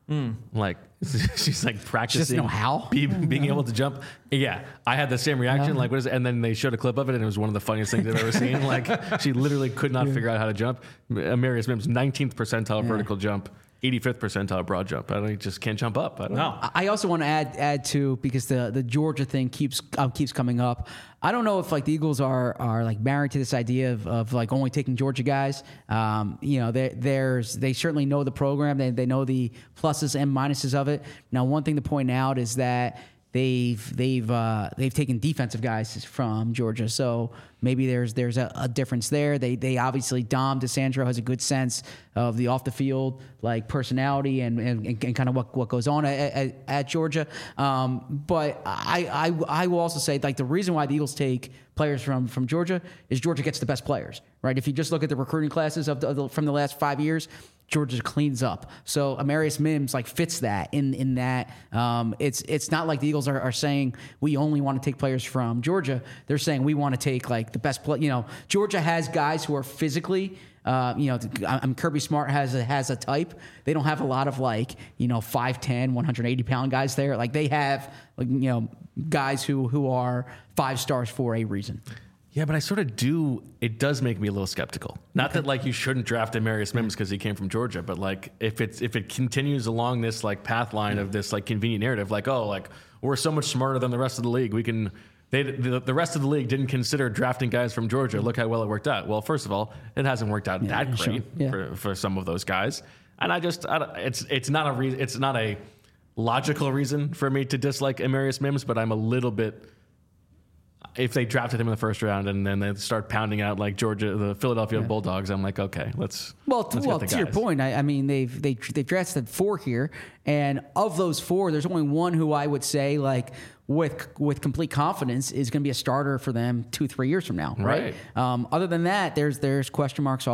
She's practicing. She doesn't know how? Being able to jump. Yeah, I had the same reaction. What is it? And then they showed a clip of it, and it was one of the funniest things I've ever seen. She literally could not figure out how to jump. Amarius Mims, 19th percentile vertical jump, 85th percentile broad jump. He just can't jump up. I don't know. I also want to add to, because the Georgia thing keeps coming up. I don't know if the Eagles are married to this idea of only taking Georgia guys. They certainly know the program. They know the pluses and minuses of it. Now, one thing to point out is that they've taken defensive guys from Georgia, so maybe there's a difference there. They obviously, Dom DeSandro has a good sense of the off the field personality and kind of what goes on at Georgia. But I will also say the reason why the Eagles take players from Georgia is Georgia gets the best players, right? If you just look at the recruiting classes from the last 5 years, Georgia cleans up. So Amarius Mims fits that in that it's not like the Eagles are saying we only want to take players from Georgia. They're saying we want to take the best play. Georgia has guys who are physically. Kirby Smart has a type. They don't have a lot of 5'10", 180-pound guys there. They have guys who are 5 stars for a reason. Yeah, but I sort of do. It does make me a little skeptical. Not that you shouldn't draft Amarius Mims because he came from Georgia, but if it continues along this path line of this convenient narrative, we're so much smarter than the rest of the league. We can. The rest of the league didn't consider drafting guys from Georgia. Look how well it worked out. Well, first of all, it hasn't worked out that great for some of those guys, and it's not a reason. It's not a logical reason for me to dislike Amarius Mims, but I'm a little bit if they drafted him in the first round and then they start pounding out like the Philadelphia Bulldogs, I'm like, okay, let's get the to your guys. point, I mean, they've drafted 4 here, and of those 4, there's only one who I would say like with complete confidence is going to be a starter for them 2-3 years from now, right? Other than that, there's question marks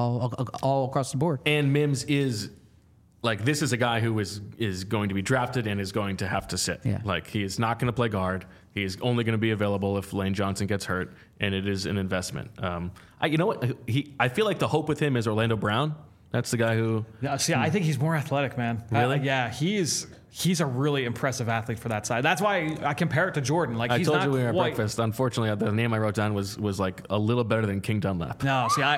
all across the board. And Mims is. Like, this is a guy who is going to be drafted and is going to have to sit. Yeah. Like, he is not going to play guard. He is only going to be available if Lane Johnson gets hurt, and it is an investment. You know what? I feel like the hope with him is Orlando Brown. That's the guy who... Yeah, see, I think he's more athletic, man. Really? Yeah, he's a really impressive athlete for that side. That's why I compare it to Jordan. Like, I he's told not you we were at quite, breakfast. Unfortunately, the name I wrote down was like a little better than King Dunlap. No, see,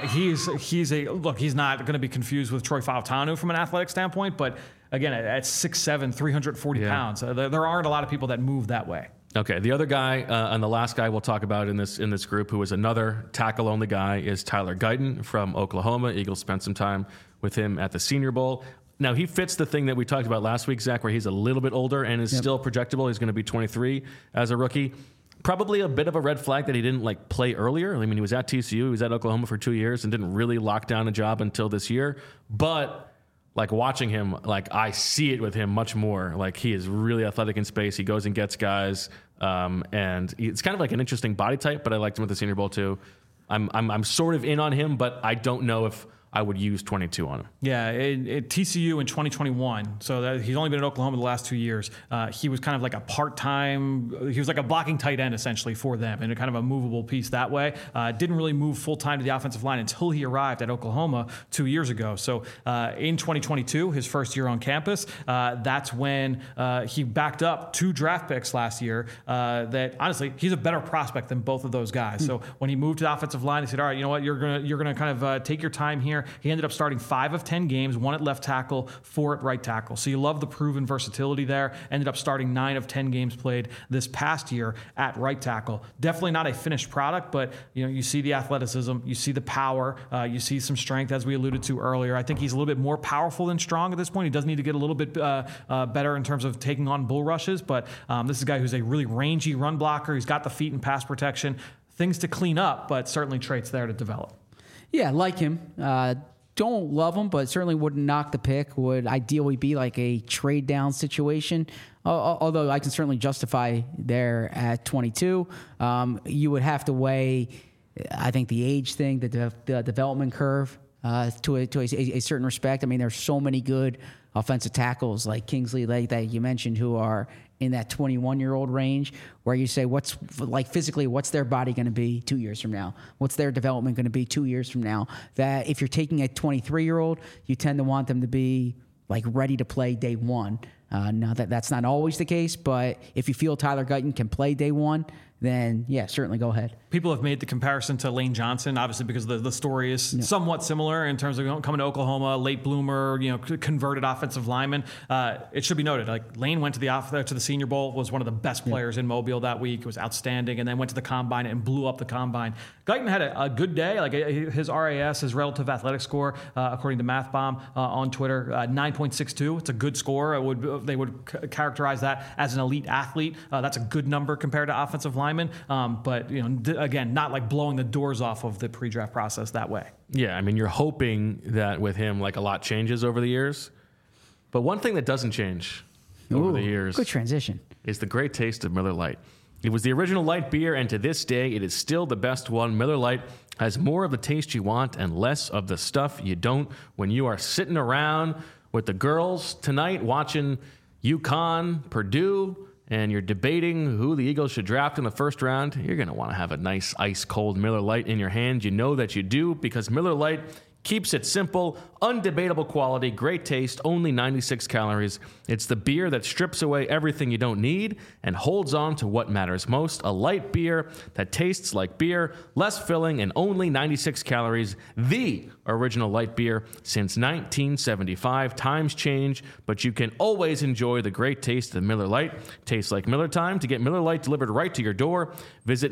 he's not going to be confused with Troy Fautanu from an athletic standpoint, but again, at 6'7", 340 pounds, there aren't a lot of people that move that way. Okay, the other guy and the last guy we'll talk about in this group, who is another tackle-only guy, is Tyler Guyton from Oklahoma. Eagles spent some time with him at the Senior Bowl. Now, he fits the thing that we talked about last week, Zach, where he's a little bit older and is still projectable. He's going to be 23 as a rookie. Probably a bit of a red flag that he didn't play earlier. I mean, he was at TCU, he was at Oklahoma for 2 years and didn't really lock down a job until this year. But watching him, I see it with him much more. Like, he is really athletic in space. He goes and gets guys, and it's kind of like an interesting body type. But I liked him at the Senior Bowl too. I'm sort of in on him, but I don't know if I would use 22 on him. Yeah, at TCU in 2021, so he's only been in Oklahoma the last 2 years. He was kind of like a part-time, he was like a blocking tight end essentially for them, and a kind of a movable piece that way. Didn't really move full-time to the offensive line until he arrived at Oklahoma 2 years ago. So in 2022, his first year on campus, that's when he backed up 2 draft picks last year that honestly, he's a better prospect than both of those guys. So when he moved to the offensive line, he said, all right, you know what, you're gonna kind of take your time here. He ended up starting 5 of 10 games, 1 at left tackle, 4 at right tackle. So you love the proven versatility there. Ended up starting 9 of 10 games played this past year at right tackle. Definitely not a finished product, but you see the athleticism, you see the power, you see some strength, as we alluded to earlier. I think he's a little bit more powerful than strong at this point. He does need to get a little bit better in terms of taking on bull rushes, but this is a guy who's a really rangy run blocker. He's got the feet and pass protection. Things to clean up, but certainly traits there to develop. Yeah, like him. Don't love him, but certainly wouldn't knock the pick. Would ideally be like a trade down situation. Although I can certainly justify there at 22. You would have to weigh, I think, the age thing, the development curve to a certain respect. I mean, there's so many good offensive tackles like Kingsley Lake that you mentioned who are in that 21-year-old range, where you say, what's their body going to be 2 years from now? What's their development going to be 2 years from now? That if you're taking a 23-year-old, you tend to want them to be ready to play day one. Now that's not always the case, but if you feel Tyler Guyton can play day one, then yeah, certainly go ahead. People have made the comparison to Lane Johnson, obviously because the story is somewhat similar in terms of coming to Oklahoma, late bloomer, converted offensive lineman. It should be noted, Lane went to the Senior Bowl, was one of the best players in Mobile that week. It was outstanding, and then went to the Combine and blew up the Combine. Guyton had a good day. His RAS, his relative athletic score, according to MathBomb on Twitter, 9.62. It's a good score. They would characterize that as an elite athlete. That's a good number compared to offensive linemen. But again, not blowing the doors off of the pre-draft process that way. Yeah, I mean, you're hoping that with him, a lot changes over the years. But one thing that doesn't change over the years, good transition, is the great taste of Miller Lite. It was the original light beer, and to this day, it is still the best one. Miller Lite has more of the taste you want and less of the stuff you don't. When you are sitting around with the girls tonight watching UConn, Purdue, and you're debating who the Eagles should draft in the first round, you're going to want to have a nice ice-cold Miller Lite in your hand. You know that you do, because Miller Lite keeps it simple, undebatable quality, great taste, only 96 calories. It's the beer that strips away everything you don't need and holds on to what matters most. A light beer that tastes like beer, less filling, and only 96 calories. The original light beer since 1975. Times change, but you can always enjoy the great taste of Miller Lite. Tastes like Miller time. To get Miller Lite delivered right to your door, visit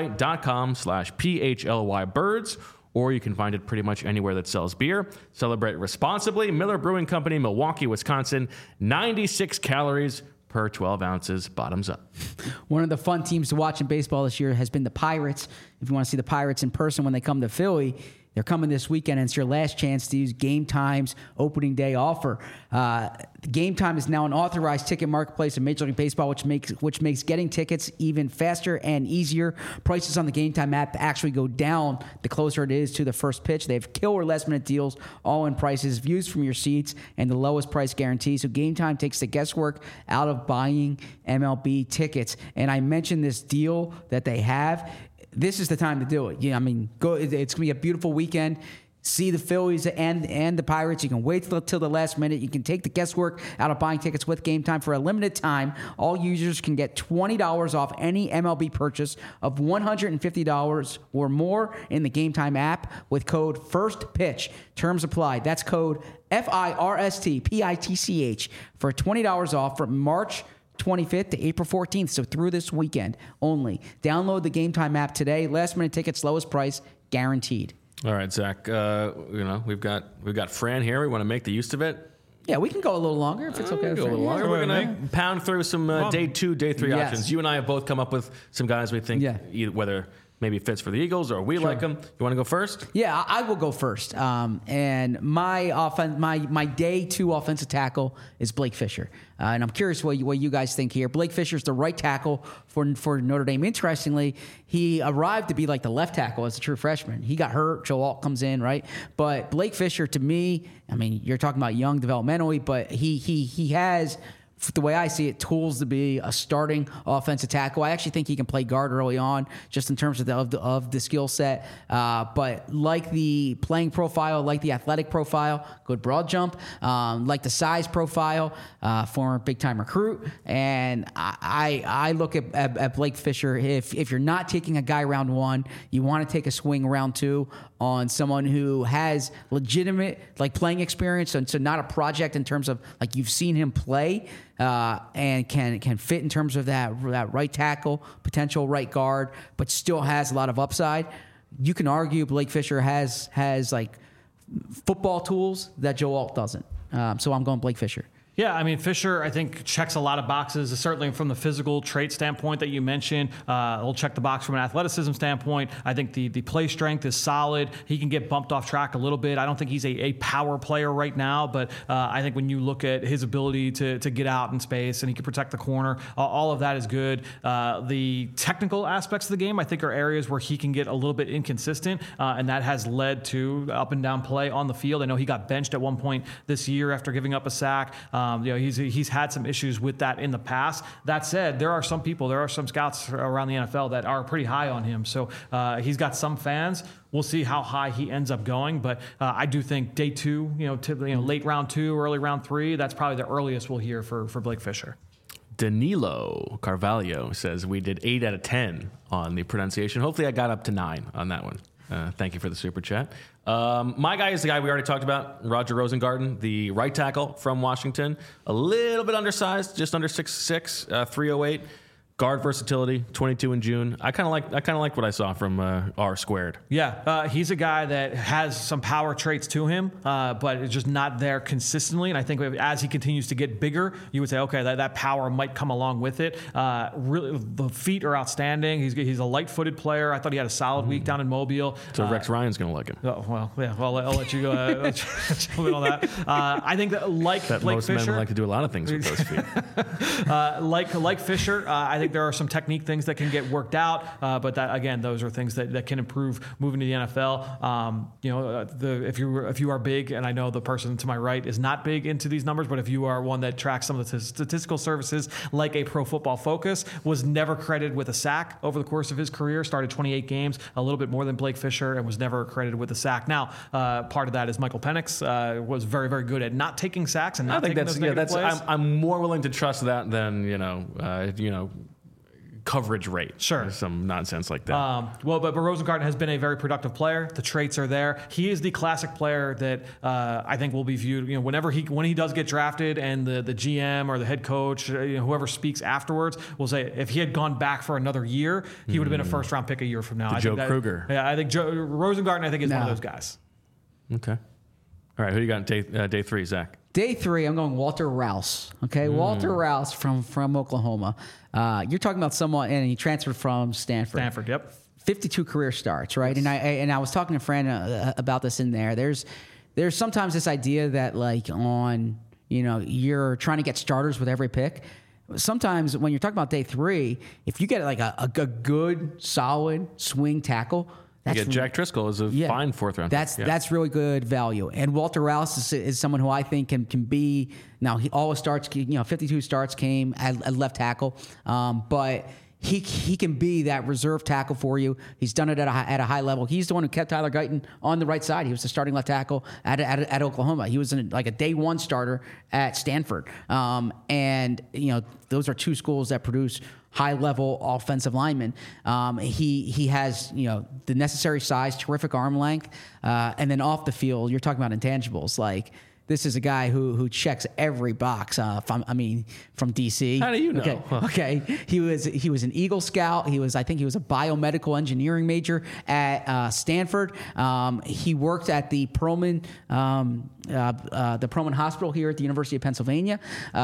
MillerLite.com/PHLYBirds, or you can find it pretty much anywhere that sells beer. Celebrate responsibly. Miller Brewing Company, Milwaukee, Wisconsin. 96 calories per 12 ounces. Bottoms up. One of the fun teams to watch in baseball this year has been the Pirates. If you want to see the Pirates in person when they come to Philly, they're coming this weekend, and it's your last chance to use Game Time's opening day offer. Game Time is now an authorized ticket marketplace in Major League Baseball, which makes getting tickets even faster and easier. Prices on the Game Time app actually go down the closer it is to the first pitch. They have killer last-minute deals, all-in prices, views from your seats, and the lowest price guarantee. So Game Time takes the guesswork out of buying MLB tickets. And I mentioned this deal that they have. This is the time to do it. Yeah, I mean, go. It's going to be a beautiful weekend. See the Phillies and the Pirates. You can wait till the last minute. You can take the guesswork out of buying tickets with Game Time. For a limited time, all users can get $20 off any MLB purchase of $150 or more in the Game Time app with code FIRSTPITCH. Terms apply. That's code FIRSTPITCH for $20 off from March 25th to April 14th, so through this weekend only. Download the Game Time app today. Last minute tickets, lowest price, guaranteed. All right, Zach. We've got Fran here. We want to make the use of it. Yeah, we can go a little longer if it's okay. Go a little longer. We're going to pound through some day 2, day 3 options. You and I have both come up with some guys we think either, whether maybe fits for the Eagles or we like them. You want to go first? Yeah, I will go first. And my day 2 offensive tackle is Blake Fisher. And I'm curious what you guys think here. Blake Fisher's the right tackle for Notre Dame. Interestingly, he arrived to be like the left tackle as a true freshman. He got hurt. Joe Alt comes in, right? But Blake Fisher, to me, I mean, you're talking about young developmentally, but he has, the way I see it, tools to be a starting offensive tackle. I actually think he can play guard early on, just in terms of the skill set. But like the playing profile, like the athletic profile, good broad jump, like the size profile, former big time recruit. And I look at Blake Fisher. If you're not taking a guy round 1, you want to take a swing round 2 on someone who has legitimate playing experience, and so not a project in terms of you've seen him play, and can fit in terms of that right tackle, potential right guard, but still has a lot of upside. You can argue Blake Fisher has football tools that Joe Alt doesn't. So I'm going Blake Fisher. Yeah, I mean, Fisher, I think, checks a lot of boxes, certainly from the physical trait standpoint that you mentioned. He'll check the box from an athleticism standpoint. I think the play strength is solid. He can get bumped off track a little bit. I don't think he's a power player right now, but I think when you look at his ability to get out in space and he can protect the corner, all of that is good. The technical aspects of the game, I think, are areas where he can get a little bit inconsistent, and that has led to up and down play on the field. I know he got benched at one point this year after giving up a sack. He's had some issues with that in the past. That said, there are some scouts around the NFL that are pretty high on him. So he's got some fans. We'll see how high he ends up going, but I do think day 2, late round 2, early round 3, that's probably the earliest we'll hear for Blake Fisher. Danilo Carvalho says we did 8 out of 10 on the pronunciation. Hopefully I got up to 9 on that one. Thank you for the super chat. My guy is the guy we already talked about, Roger Rosengarten, the right tackle from Washington. A little bit undersized, just under 6'6", 308. Guard versatility, 22 in June. I kind of like what I saw from R squared. Yeah, he's a guy that has some power traits to him, but it's just not there consistently. And I think as he continues to get bigger, you would say, okay, that power might come along with it. Really, the feet are outstanding. He's a light-footed player. I thought he had a solid week down in Mobile. So Rex Ryan's going to like him. Oh, well, yeah. Well, I'll let you go jump in on that. I think that Blake Fisher, most men would like to do a lot of things with those feet. like Fisher, I think there are some technique things that can get worked out, but that, again, those are things that can improve moving to the NFL. If you are big, and I know the person to my right is not big into these numbers, but if you are one that tracks some of the statistical services like a Pro Football Focus, was never credited with a sack over the course of his career, started 28 games, a little bit more than Blake Fisher, and was never credited with a sack. Now, part of that is Michael Penix was very, very good at not taking sacks and not taking those negative plays. I'm more willing to trust that than coverage rate. Sure. Some nonsense like that. But Rosengarten has been a very productive player. The traits are there. He is the classic player that I think will be viewed, when he does get drafted, and the GM or the head coach, whoever speaks afterwards, will say if he had gone back for another year, he would have been a first round pick a year from now. Joe Kruger. Yeah, I think Rosengarten, is one of those guys. Okay. All right, who you got in day 3, Zach? Day 3, I'm going Walter Rouse. Okay, Walter Rouse from Oklahoma. You're talking about someone, and he transferred from Stanford. Stanford, yep. 52 career starts, right? Yes. And I was talking to Fran about this in there. There's sometimes this idea that you're trying to get starters with every pick. Sometimes when you're talking about day 3, if you get like a good, solid swing tackle, Jack Driscoll is a fine 4th round. That's really good value. And Walter Rouse is someone who I think can be. Now he always starts. 52 starts came at left tackle, but he can be that reserve tackle for you. He's done it at a high level. He's the one who kept Tyler Guyton on the right side. He was the starting left tackle at Oklahoma. He was like a day 1 starter at Stanford. And those are 2 schools that produce high-level offensive linemen. He has the necessary size, terrific arm length, and then off the field, you're talking about intangibles. Like, this is a guy who checks every box. From DC. How do you know? Okay. He was an Eagle Scout. I think he was a biomedical engineering major at Stanford. He worked at the Perelman Hospital here at the University of Pennsylvania.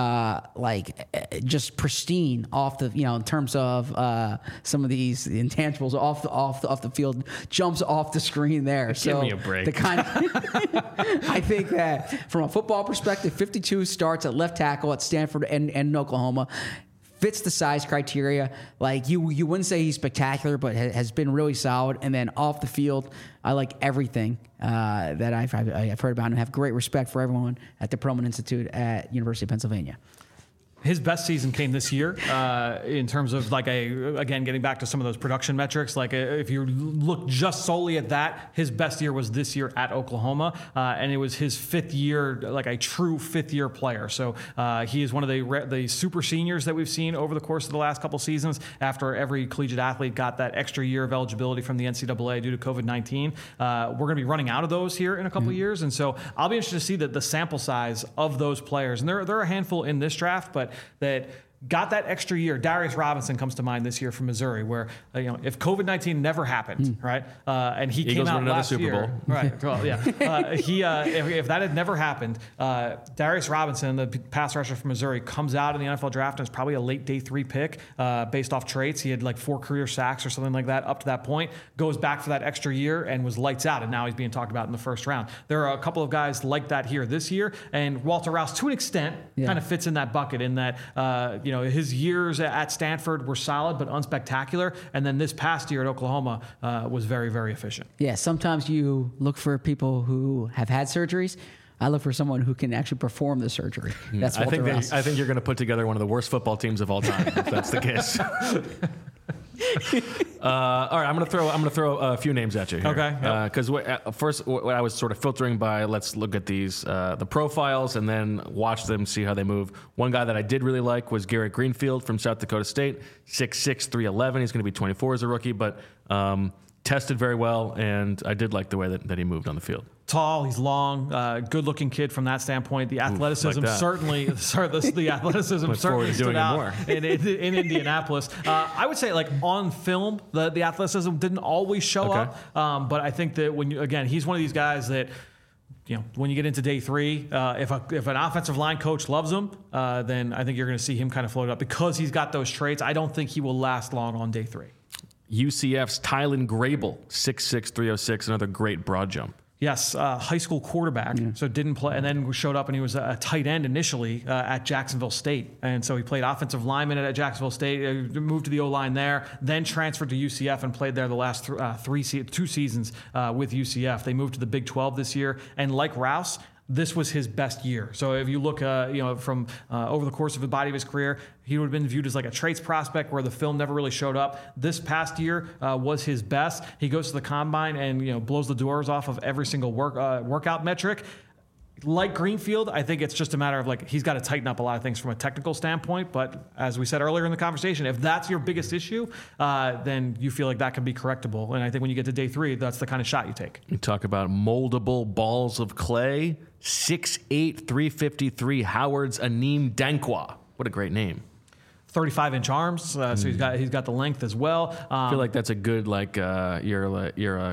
Just pristine off the in terms of some of these intangibles off the field, jumps off the screen there. Give me a break. The kind of I think that from a football perspective, 52 starts at left tackle at Stanford and Oklahoma. Fits the size criteria. Like you wouldn't say he's spectacular, but has been really solid. And then off the field, I like everything that I've heard about him. I have great respect for everyone at the Perelman Institute at University of Pennsylvania. His best season came this year in terms of again, getting back to some of those production metrics. If you look just solely at that, his best year was this year at Oklahoma. And it was his 5th year, like a true 5th year player. So he is one of the super seniors that we've seen over the course of the last couple seasons after every collegiate athlete got that extra year of eligibility from the NCAA due to COVID-19. We're going to be running out of those here in a couple years. And so I'll be interested to see the sample size of those players. And there are a handful in this draft, but that got that extra year. Darius Robinson comes to mind this year from Missouri, where if COVID-19 never happened, right, and he Eagles came out another last Super year, Bowl. right? Well, yeah, if that had never happened, Darius Robinson, the pass rusher from Missouri, comes out in the NFL draft and is probably a late day 3 pick based off traits. He had 4 career sacks or something like that up to that point. Goes back for that extra year and was lights out, and now he's being talked about in the 1st round. There are a couple of guys like that here this year, and Walter Rouse, to an extent, kind of fits in that bucket in that his years at Stanford were solid but unspectacular, and then this past year at Oklahoma was very, very efficient. Yeah, sometimes you look for people who have had surgeries. I look for someone who can actually perform the surgery. That's Walter Rouse. I think you're going to put together one of the worst football teams of all time if that's the case. All right, I'm gonna throw a few names at you here. Okay. Because first, what I was sort of filtering by, let's look at these the profiles and then watch them, see how they move. One guy that I did really like was Garrett Greenfield from South Dakota State, 6'6", 311. He's going to be 24 as a rookie, but tested very well, and I did like the way that he moved on the field. Tall, he's long, good-looking kid from that standpoint. The athleticism certainly stood out in Indianapolis. I would say, on film, the athleticism didn't always show up, but I think that he's one of these guys that, when you get into day 3, if an offensive line coach loves him, then I think you're going to see him kind of float up because he's got those traits. I don't think he will last long on day 3. UCF's Tylen Grable, 6'6", 306, another great broad jump. Yes, high school quarterback, so didn't play, and then showed up and he was a tight end initially at Jacksonville State. And so he played offensive lineman at Jacksonville State, moved to the O-line there, then transferred to UCF and played there the last 2 seasons with UCF. They moved to the Big 12 this year, and like Rouse, this was his best year. So if you look, from over the course of the body of his career, he would have been viewed as like a traits prospect where the film never really showed up. This past year was his best. He goes to the combine and blows the doors off of every single workout metric. Like Greenfield, I think it's just a matter of he's got to tighten up a lot of things from a technical standpoint. But as we said earlier in the conversation, if that's your biggest issue, then you feel like that can be correctable. And I think when you get to day 3, that's the kind of shot you take. You talk about moldable balls of clay. 6'8", 353, Howard's Aneem Dankwa. What a great name. 35-inch arms, so he's got the length as well. I feel like that's a good you're a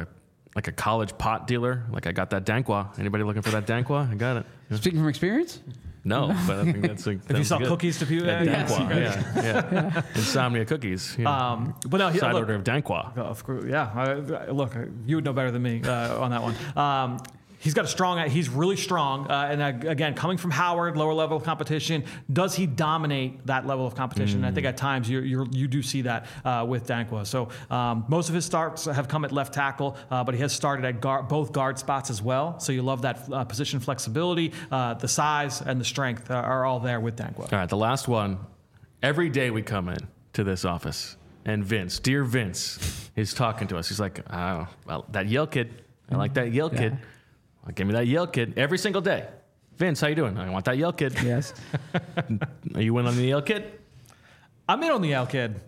like a college pot dealer. Like I got that Danqua. Anybody looking for that Danqua? I got it. Speaking from experience? No, but I think that's if you sell cookies to people, Danqua, yeah. Insomnia cookies. Yeah. But no, Side order of Danqua. Of course, yeah. Look, you would know better than me on that one. He's got a strong. He's really strong, and again, coming from Howard, lower level of competition, does he dominate that level of competition? And I think at times you do see that with Danqua. So most of his starts have come at left tackle, but he has started at both guard spots as well. So you love that position flexibility, the size and the strength are all there with Danqua. All right, the last one. Every day we come in to this office, and dear Vince, is talking to us. He's like, "Oh, well, that Yale kid. I like that Yale kid. Give me that Yale kid every single day." Vince, how you doing? I want that Yale kid. Yes. Are you in on the Yale kid? I'm in on the Yale kid.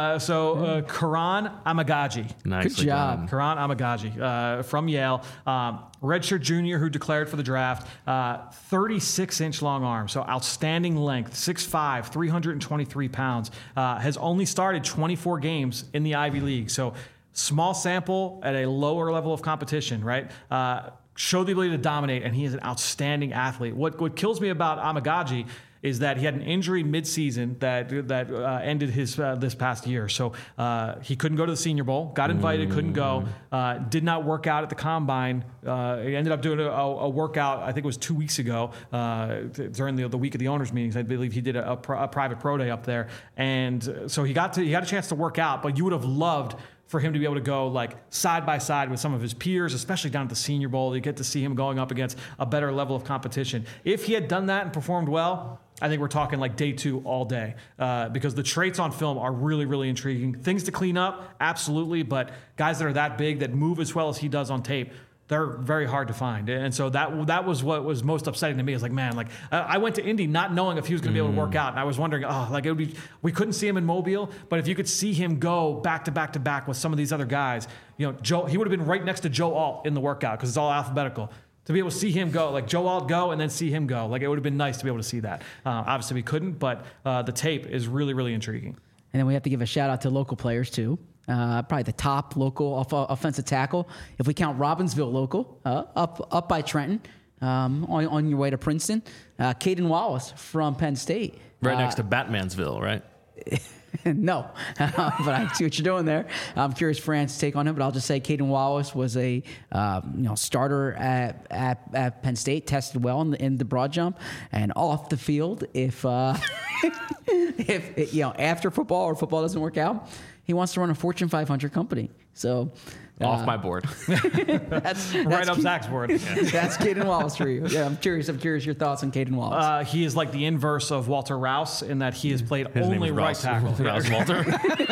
Karan Amagaji. Nicely Good job. done. Karan Amagaji from Yale. Redshirt junior who declared for the draft. 36-inch long arm, so outstanding length. 6'5", 323 pounds. Has only started 24 games in the Ivy League. So small sample at a lower level of competition, right? Showed the ability to dominate, and he is an outstanding athlete. What kills me about Amagaji is that he had an injury midseason that ended his this past year. So he couldn't go to the Senior Bowl, got invited, couldn't go, did not work out at the Combine. He ended up doing a workout, I think it was 2 weeks ago, during the week of the owners' meetings. I believe he did a private pro day up there. And so he got a chance to work out, but you would have loved for him to be able to go like side by side with some of his peers, especially down at the Senior Bowl. You get to see him going up against a better level of competition. If he had done that and performed well, I think we're talking like day 2 all day, because the traits on film are really, really intriguing. Things to clean up, absolutely, but guys that are that big, that move as well as he does on tape, they're very hard to find. And so that was what was most upsetting to me. Is like, man, like I went to Indy not knowing if he was going to be able to work out, and I was wondering, we couldn't see him in Mobile, but if you could see him go back to back to back with some of these other guys, he would have been right next to Joe Alt in the workout because it's all alphabetical. To be able to see him go, like Joe Alt go and then see him go, like it would have been nice to be able to see that. Obviously we couldn't, but the tape is really, really intriguing. And then we have to give a shout out to local players too. Probably the top local offensive tackle, if we count Robbinsville local, up by Trenton, on your way to Princeton. Caden Wallace from Penn State. Right next to Batmansville, right? No, but I see what you're doing there. I'm curious Fran's take on him, but I'll just say Caden Wallace was a starter at Penn State, tested well in the broad jump and off the field. If after football or football doesn't work out, he wants to run a Fortune 500 company. So off my board. that's right up Zach's board. That's Caden Wallace for you. Yeah, I'm curious your thoughts on Caden Wallace. He is like the inverse of Walter Rouse in that he has played only right tackle. Rouse Walter.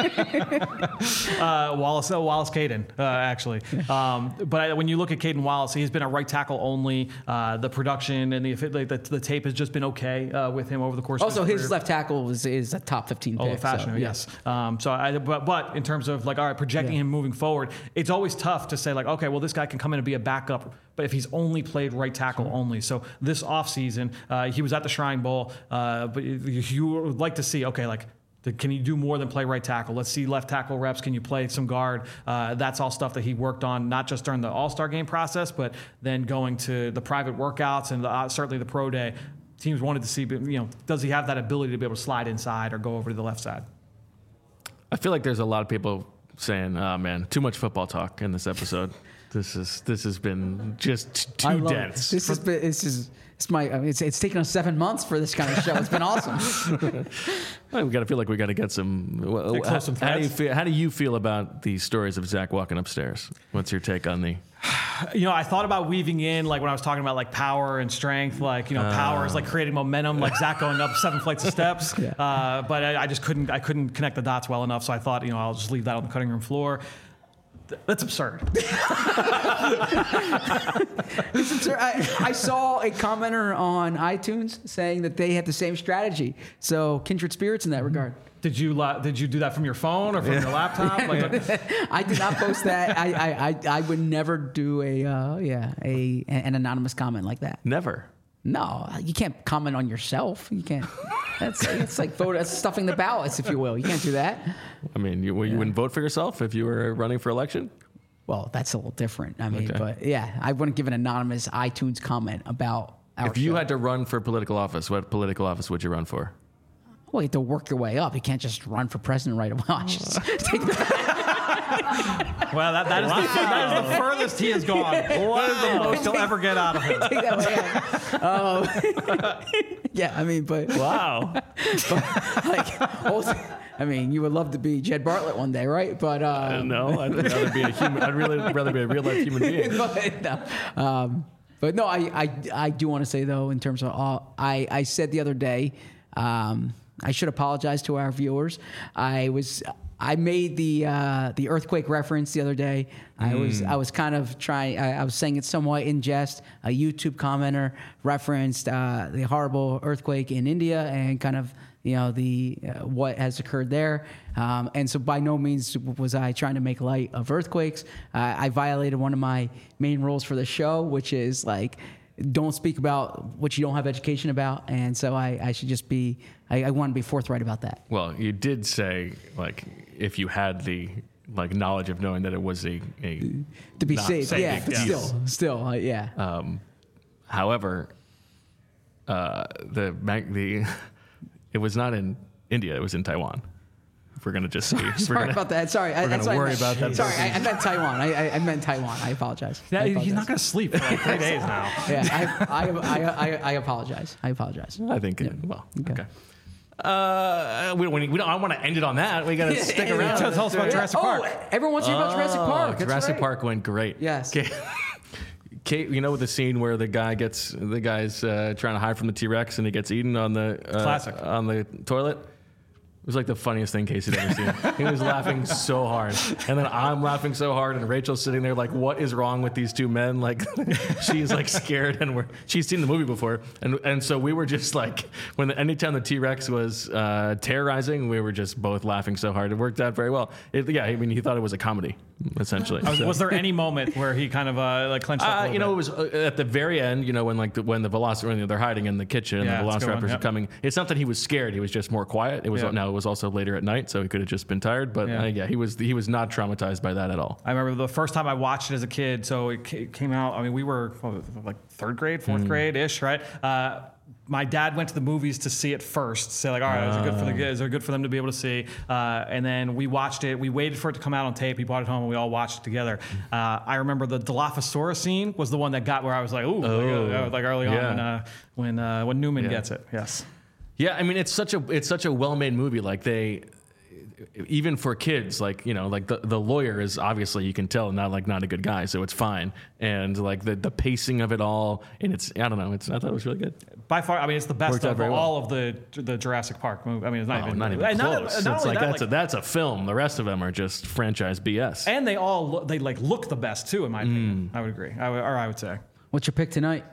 Wallace Caden, actually. But when you look at Caden Wallace, he's been a right tackle only. The production and the tape has just been okay with him over the course of his career. His left tackle is a top 15 pick. Fashion, yes. But in terms of like, all right, projecting him moving forward, it's always tough to say like, okay, well, this guy can come in and be a backup, but if he's only played right tackle only. So this offseason, he was at the Shrine Bowl, but you would like to see, okay, like, can you do more than play right tackle? Let's see left tackle reps. Can you play some guard? That's all stuff that he worked on, not just during the All-Star game process, but then going to the private workouts and certainly the pro day. Teams wanted to see, does he have that ability to be able to slide inside or go over to the left side? I feel like there's a lot of people saying, "Oh man, too much football talk in this episode. This has been just too dense." It's taken us 7 months for this kind of show. It's been awesome. We got to feel like we got to get some. How do you feel about the stories of Zach walking upstairs? What's your take on the? I thought about weaving in, like when I was talking about like power and strength, like, power is like creating momentum, like Zach going up 7 flights of steps. Yeah. But I just couldn't connect the dots well enough. So I thought, I'll just leave that on the cutting room floor. That's absurd. It's absurd. I saw a commenter on iTunes saying that they had the same strategy. So kindred spirits in that regard. Did you do that from your phone or from your laptop? I did not post that. I would never do an anonymous comment like that. Never. No, you can't comment on yourself. You can't. It's like that's stuffing the ballots, if you will. You can't do that. I mean, you wouldn't vote for yourself if you were running for election? Well, that's a little different. I mean, but yeah, I wouldn't give an anonymous iTunes comment about our If you show. had to run for political office, what political office would you run for? Well, you have to work your way up. You can't just run for president right away. I should just take Well, that is the furthest he has gone. What is the most he'll ever get out of it? that way out. Yeah, I mean, but Wow. I mean, you would love to be Jed Bartlett one day, right? But No, I'd rather be a human. I'd really rather be a real life human being. but no, I do want to say though, in terms of I said the other day, I should apologize to our viewers. I made the earthquake reference the other day. I was kind of trying. I was saying it somewhat in jest. A YouTube commenter referenced the horrible earthquake in India and kind of the what has occurred there. And so by no means was I trying to make light of earthquakes. I violated one of my main rules for the show, which is like, don't speak about what you don't have education about. And so I should just be, I want to be forthright about that. Well, you did say, like, if you had the knowledge of knowing that it was a To be not safe, safe, yeah, but yes. still, yeah. However, it was not in India; it was in Taiwan. If we're gonna just see, Sorry about that. Sorry, we're gonna worry about that. Sorry, I meant Taiwan. I meant Taiwan. I apologize. Yeah, I he's apologize. not going to sleep for like 3 days now. Yeah, I apologize. I apologize. I think. Well, okay. I want to end it on that. We got to stick around. Tell us about Jurassic Park. Everyone wants to hear about Jurassic Park. That's Jurassic right. Park went great. Yes. Okay. Kate, you know the scene where the guy's trying to hide from the T-Rex and he gets eaten on the Classic. on the toilet. It was like the funniest thing Casey had ever seen. He was laughing so hard. And then I'm laughing so hard, and Rachel's sitting there like, what is wrong with these two men? Like, she's like scared, and she's seen the movie before. And so we were just like, anytime the T-Rex was terrorizing, we were just both laughing so hard. It worked out very well. He thought it was a comedy, essentially. Was there any moment where he kind of clenched up a little bit? It was at the very end, when the Velociraptor, they're hiding in the kitchen and Yeah, the that's a good Velociraptors one, are yep. coming. It's not that he was scared; he was just more quiet. It was It was also later at night, so he could have just been tired. But he was not traumatized by that at all. I remember the first time I watched it as a kid. So it came out. I mean, we were like third grade, fourth grade ish, right? My dad went to the movies to see it first. Say like, all right, is it good for them to be able to see? And then we watched it. We waited for it to come out on tape. He brought it home, and we all watched it together. I remember the Dilophosaurus scene was the one that got where I was like, like early on when Newman gets it. Yes. Yeah, I mean it's such a well-made movie. Like even for kids, like the lawyer is obviously, you can tell, not a good guy, so it's fine. And like the pacing of it all, and I thought it was really good. By far, I mean, it's the best Worked out of very all of the Jurassic Park movie. I mean, it's not even close. Not It's only like that, that's a film. The rest of them are just franchise BS. and they all look the best too, in my opinion. I would agree. I would say What's your pick tonight?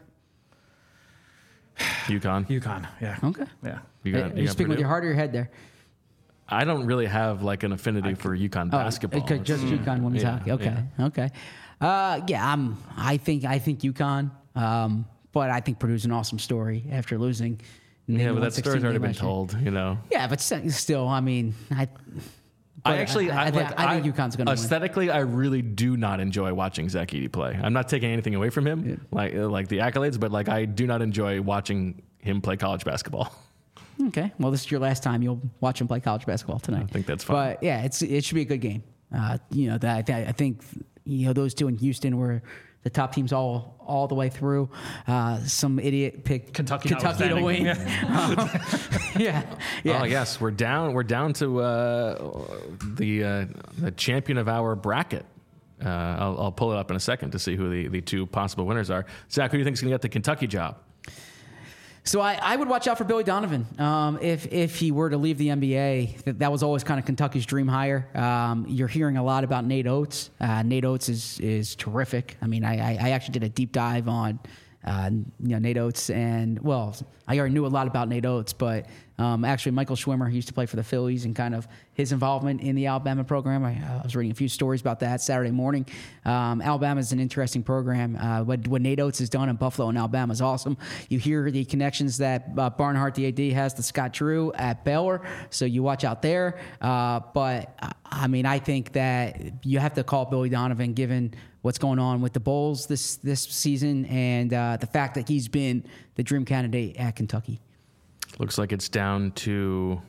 UConn. Yeah. Okay. Yeah. You speaking with your heart or your head there? I don't really have like an affinity for UConn basketball. Okay, just UConn women's hockey. Okay. Yeah. Okay. I think UConn, but I think Purdue's an awesome story after losing. Yeah, but that 116 story's already game been last year. told, Yeah, but still, I mean, I think UConn's going to win. Aesthetically, I really do not enjoy watching Zach Edey play. I'm not taking anything away from him, like the accolades, but like I do not enjoy watching him play college basketball. Okay, well, this is your last time you'll watch him play college basketball tonight. I think that's fine. But yeah, it should be a good game. I think those two in Houston were the top teams all the way through. Some idiot picked Kentucky to win. Yeah. Oh yes, we're down to the champion of our bracket. I'll pull it up in a second to see who the two possible winners are. Zach, who do you think is going to get the Kentucky job? So I would watch out for Billy Donovan. If he were to leave the NBA, that was always kind of Kentucky's dream hire. You're hearing a lot about Nate Oates. Nate Oates is terrific. I mean, I actually did a deep dive on Nate Oates, and well, I already knew a lot about Nate Oates, but Actually, Michael Schwimmer, he used to play for the Phillies, and kind of his involvement in the Alabama program. I was reading a few stories about that Saturday morning. Alabama is an interesting program. What Nate Oates has done in Buffalo and Alabama is awesome. You hear the connections that Barnhart, the AD, has to Scott Drew at Baylor, so you watch out there. But I mean, I think that you have to call Billy Donovan, given what's going on with the Bulls this season, and the fact that he's been the dream candidate at Kentucky. Looks like it's down to.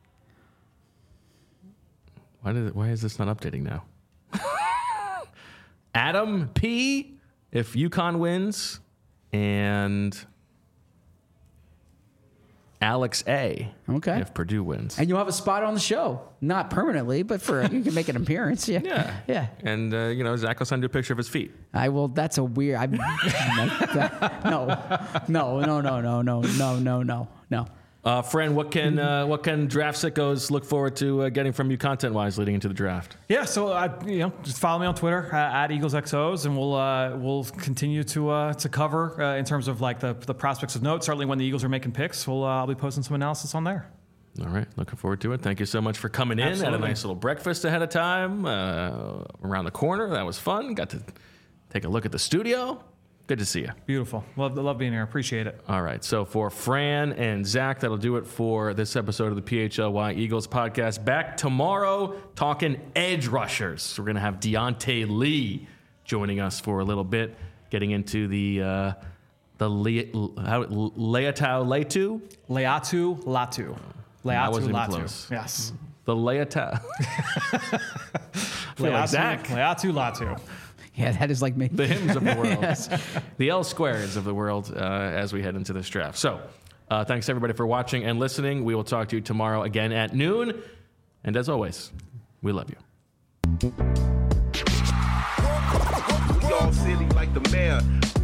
Why is this not updating now? Adam P. if UConn wins, and Alex A. Okay. if Purdue wins. And you'll have a spot on the show, not permanently, but you can make an appearance. Yeah. And Zach will send you a picture of his feet. I will. That's a weird. No. Fran, what can Draft Sickos look forward to getting from you content-wise leading into the draft? Yeah, so just follow me on Twitter at EaglesXOs, and we'll continue to cover in terms of like the prospects of note. Certainly, when the Eagles are making picks, I'll be posting some analysis on there. All right, looking forward to it. Thank you so much for coming in. Absolutely. Had a nice little breakfast ahead of time around the corner. That was fun. Got to take a look at the studio. Good to see you. Beautiful. Love being here. Appreciate it. All right. So for Fran and Zach, that'll do it for this episode of the PHLY Eagles podcast. Back tomorrow talking edge rushers. We're going to have Deontay Lee joining us for a little bit, getting into the Leatu Latu. I wasn't even Latu. close. Yes. The Leatu. Like Zach. Leatu Latu. Yeah, that is like me. The hymns of the world. Yes. The L squareds of the world as we head into this draft. So thanks everybody for watching and listening. We will talk to you tomorrow again at noon. And as always, we love you. We all silly like the mayor.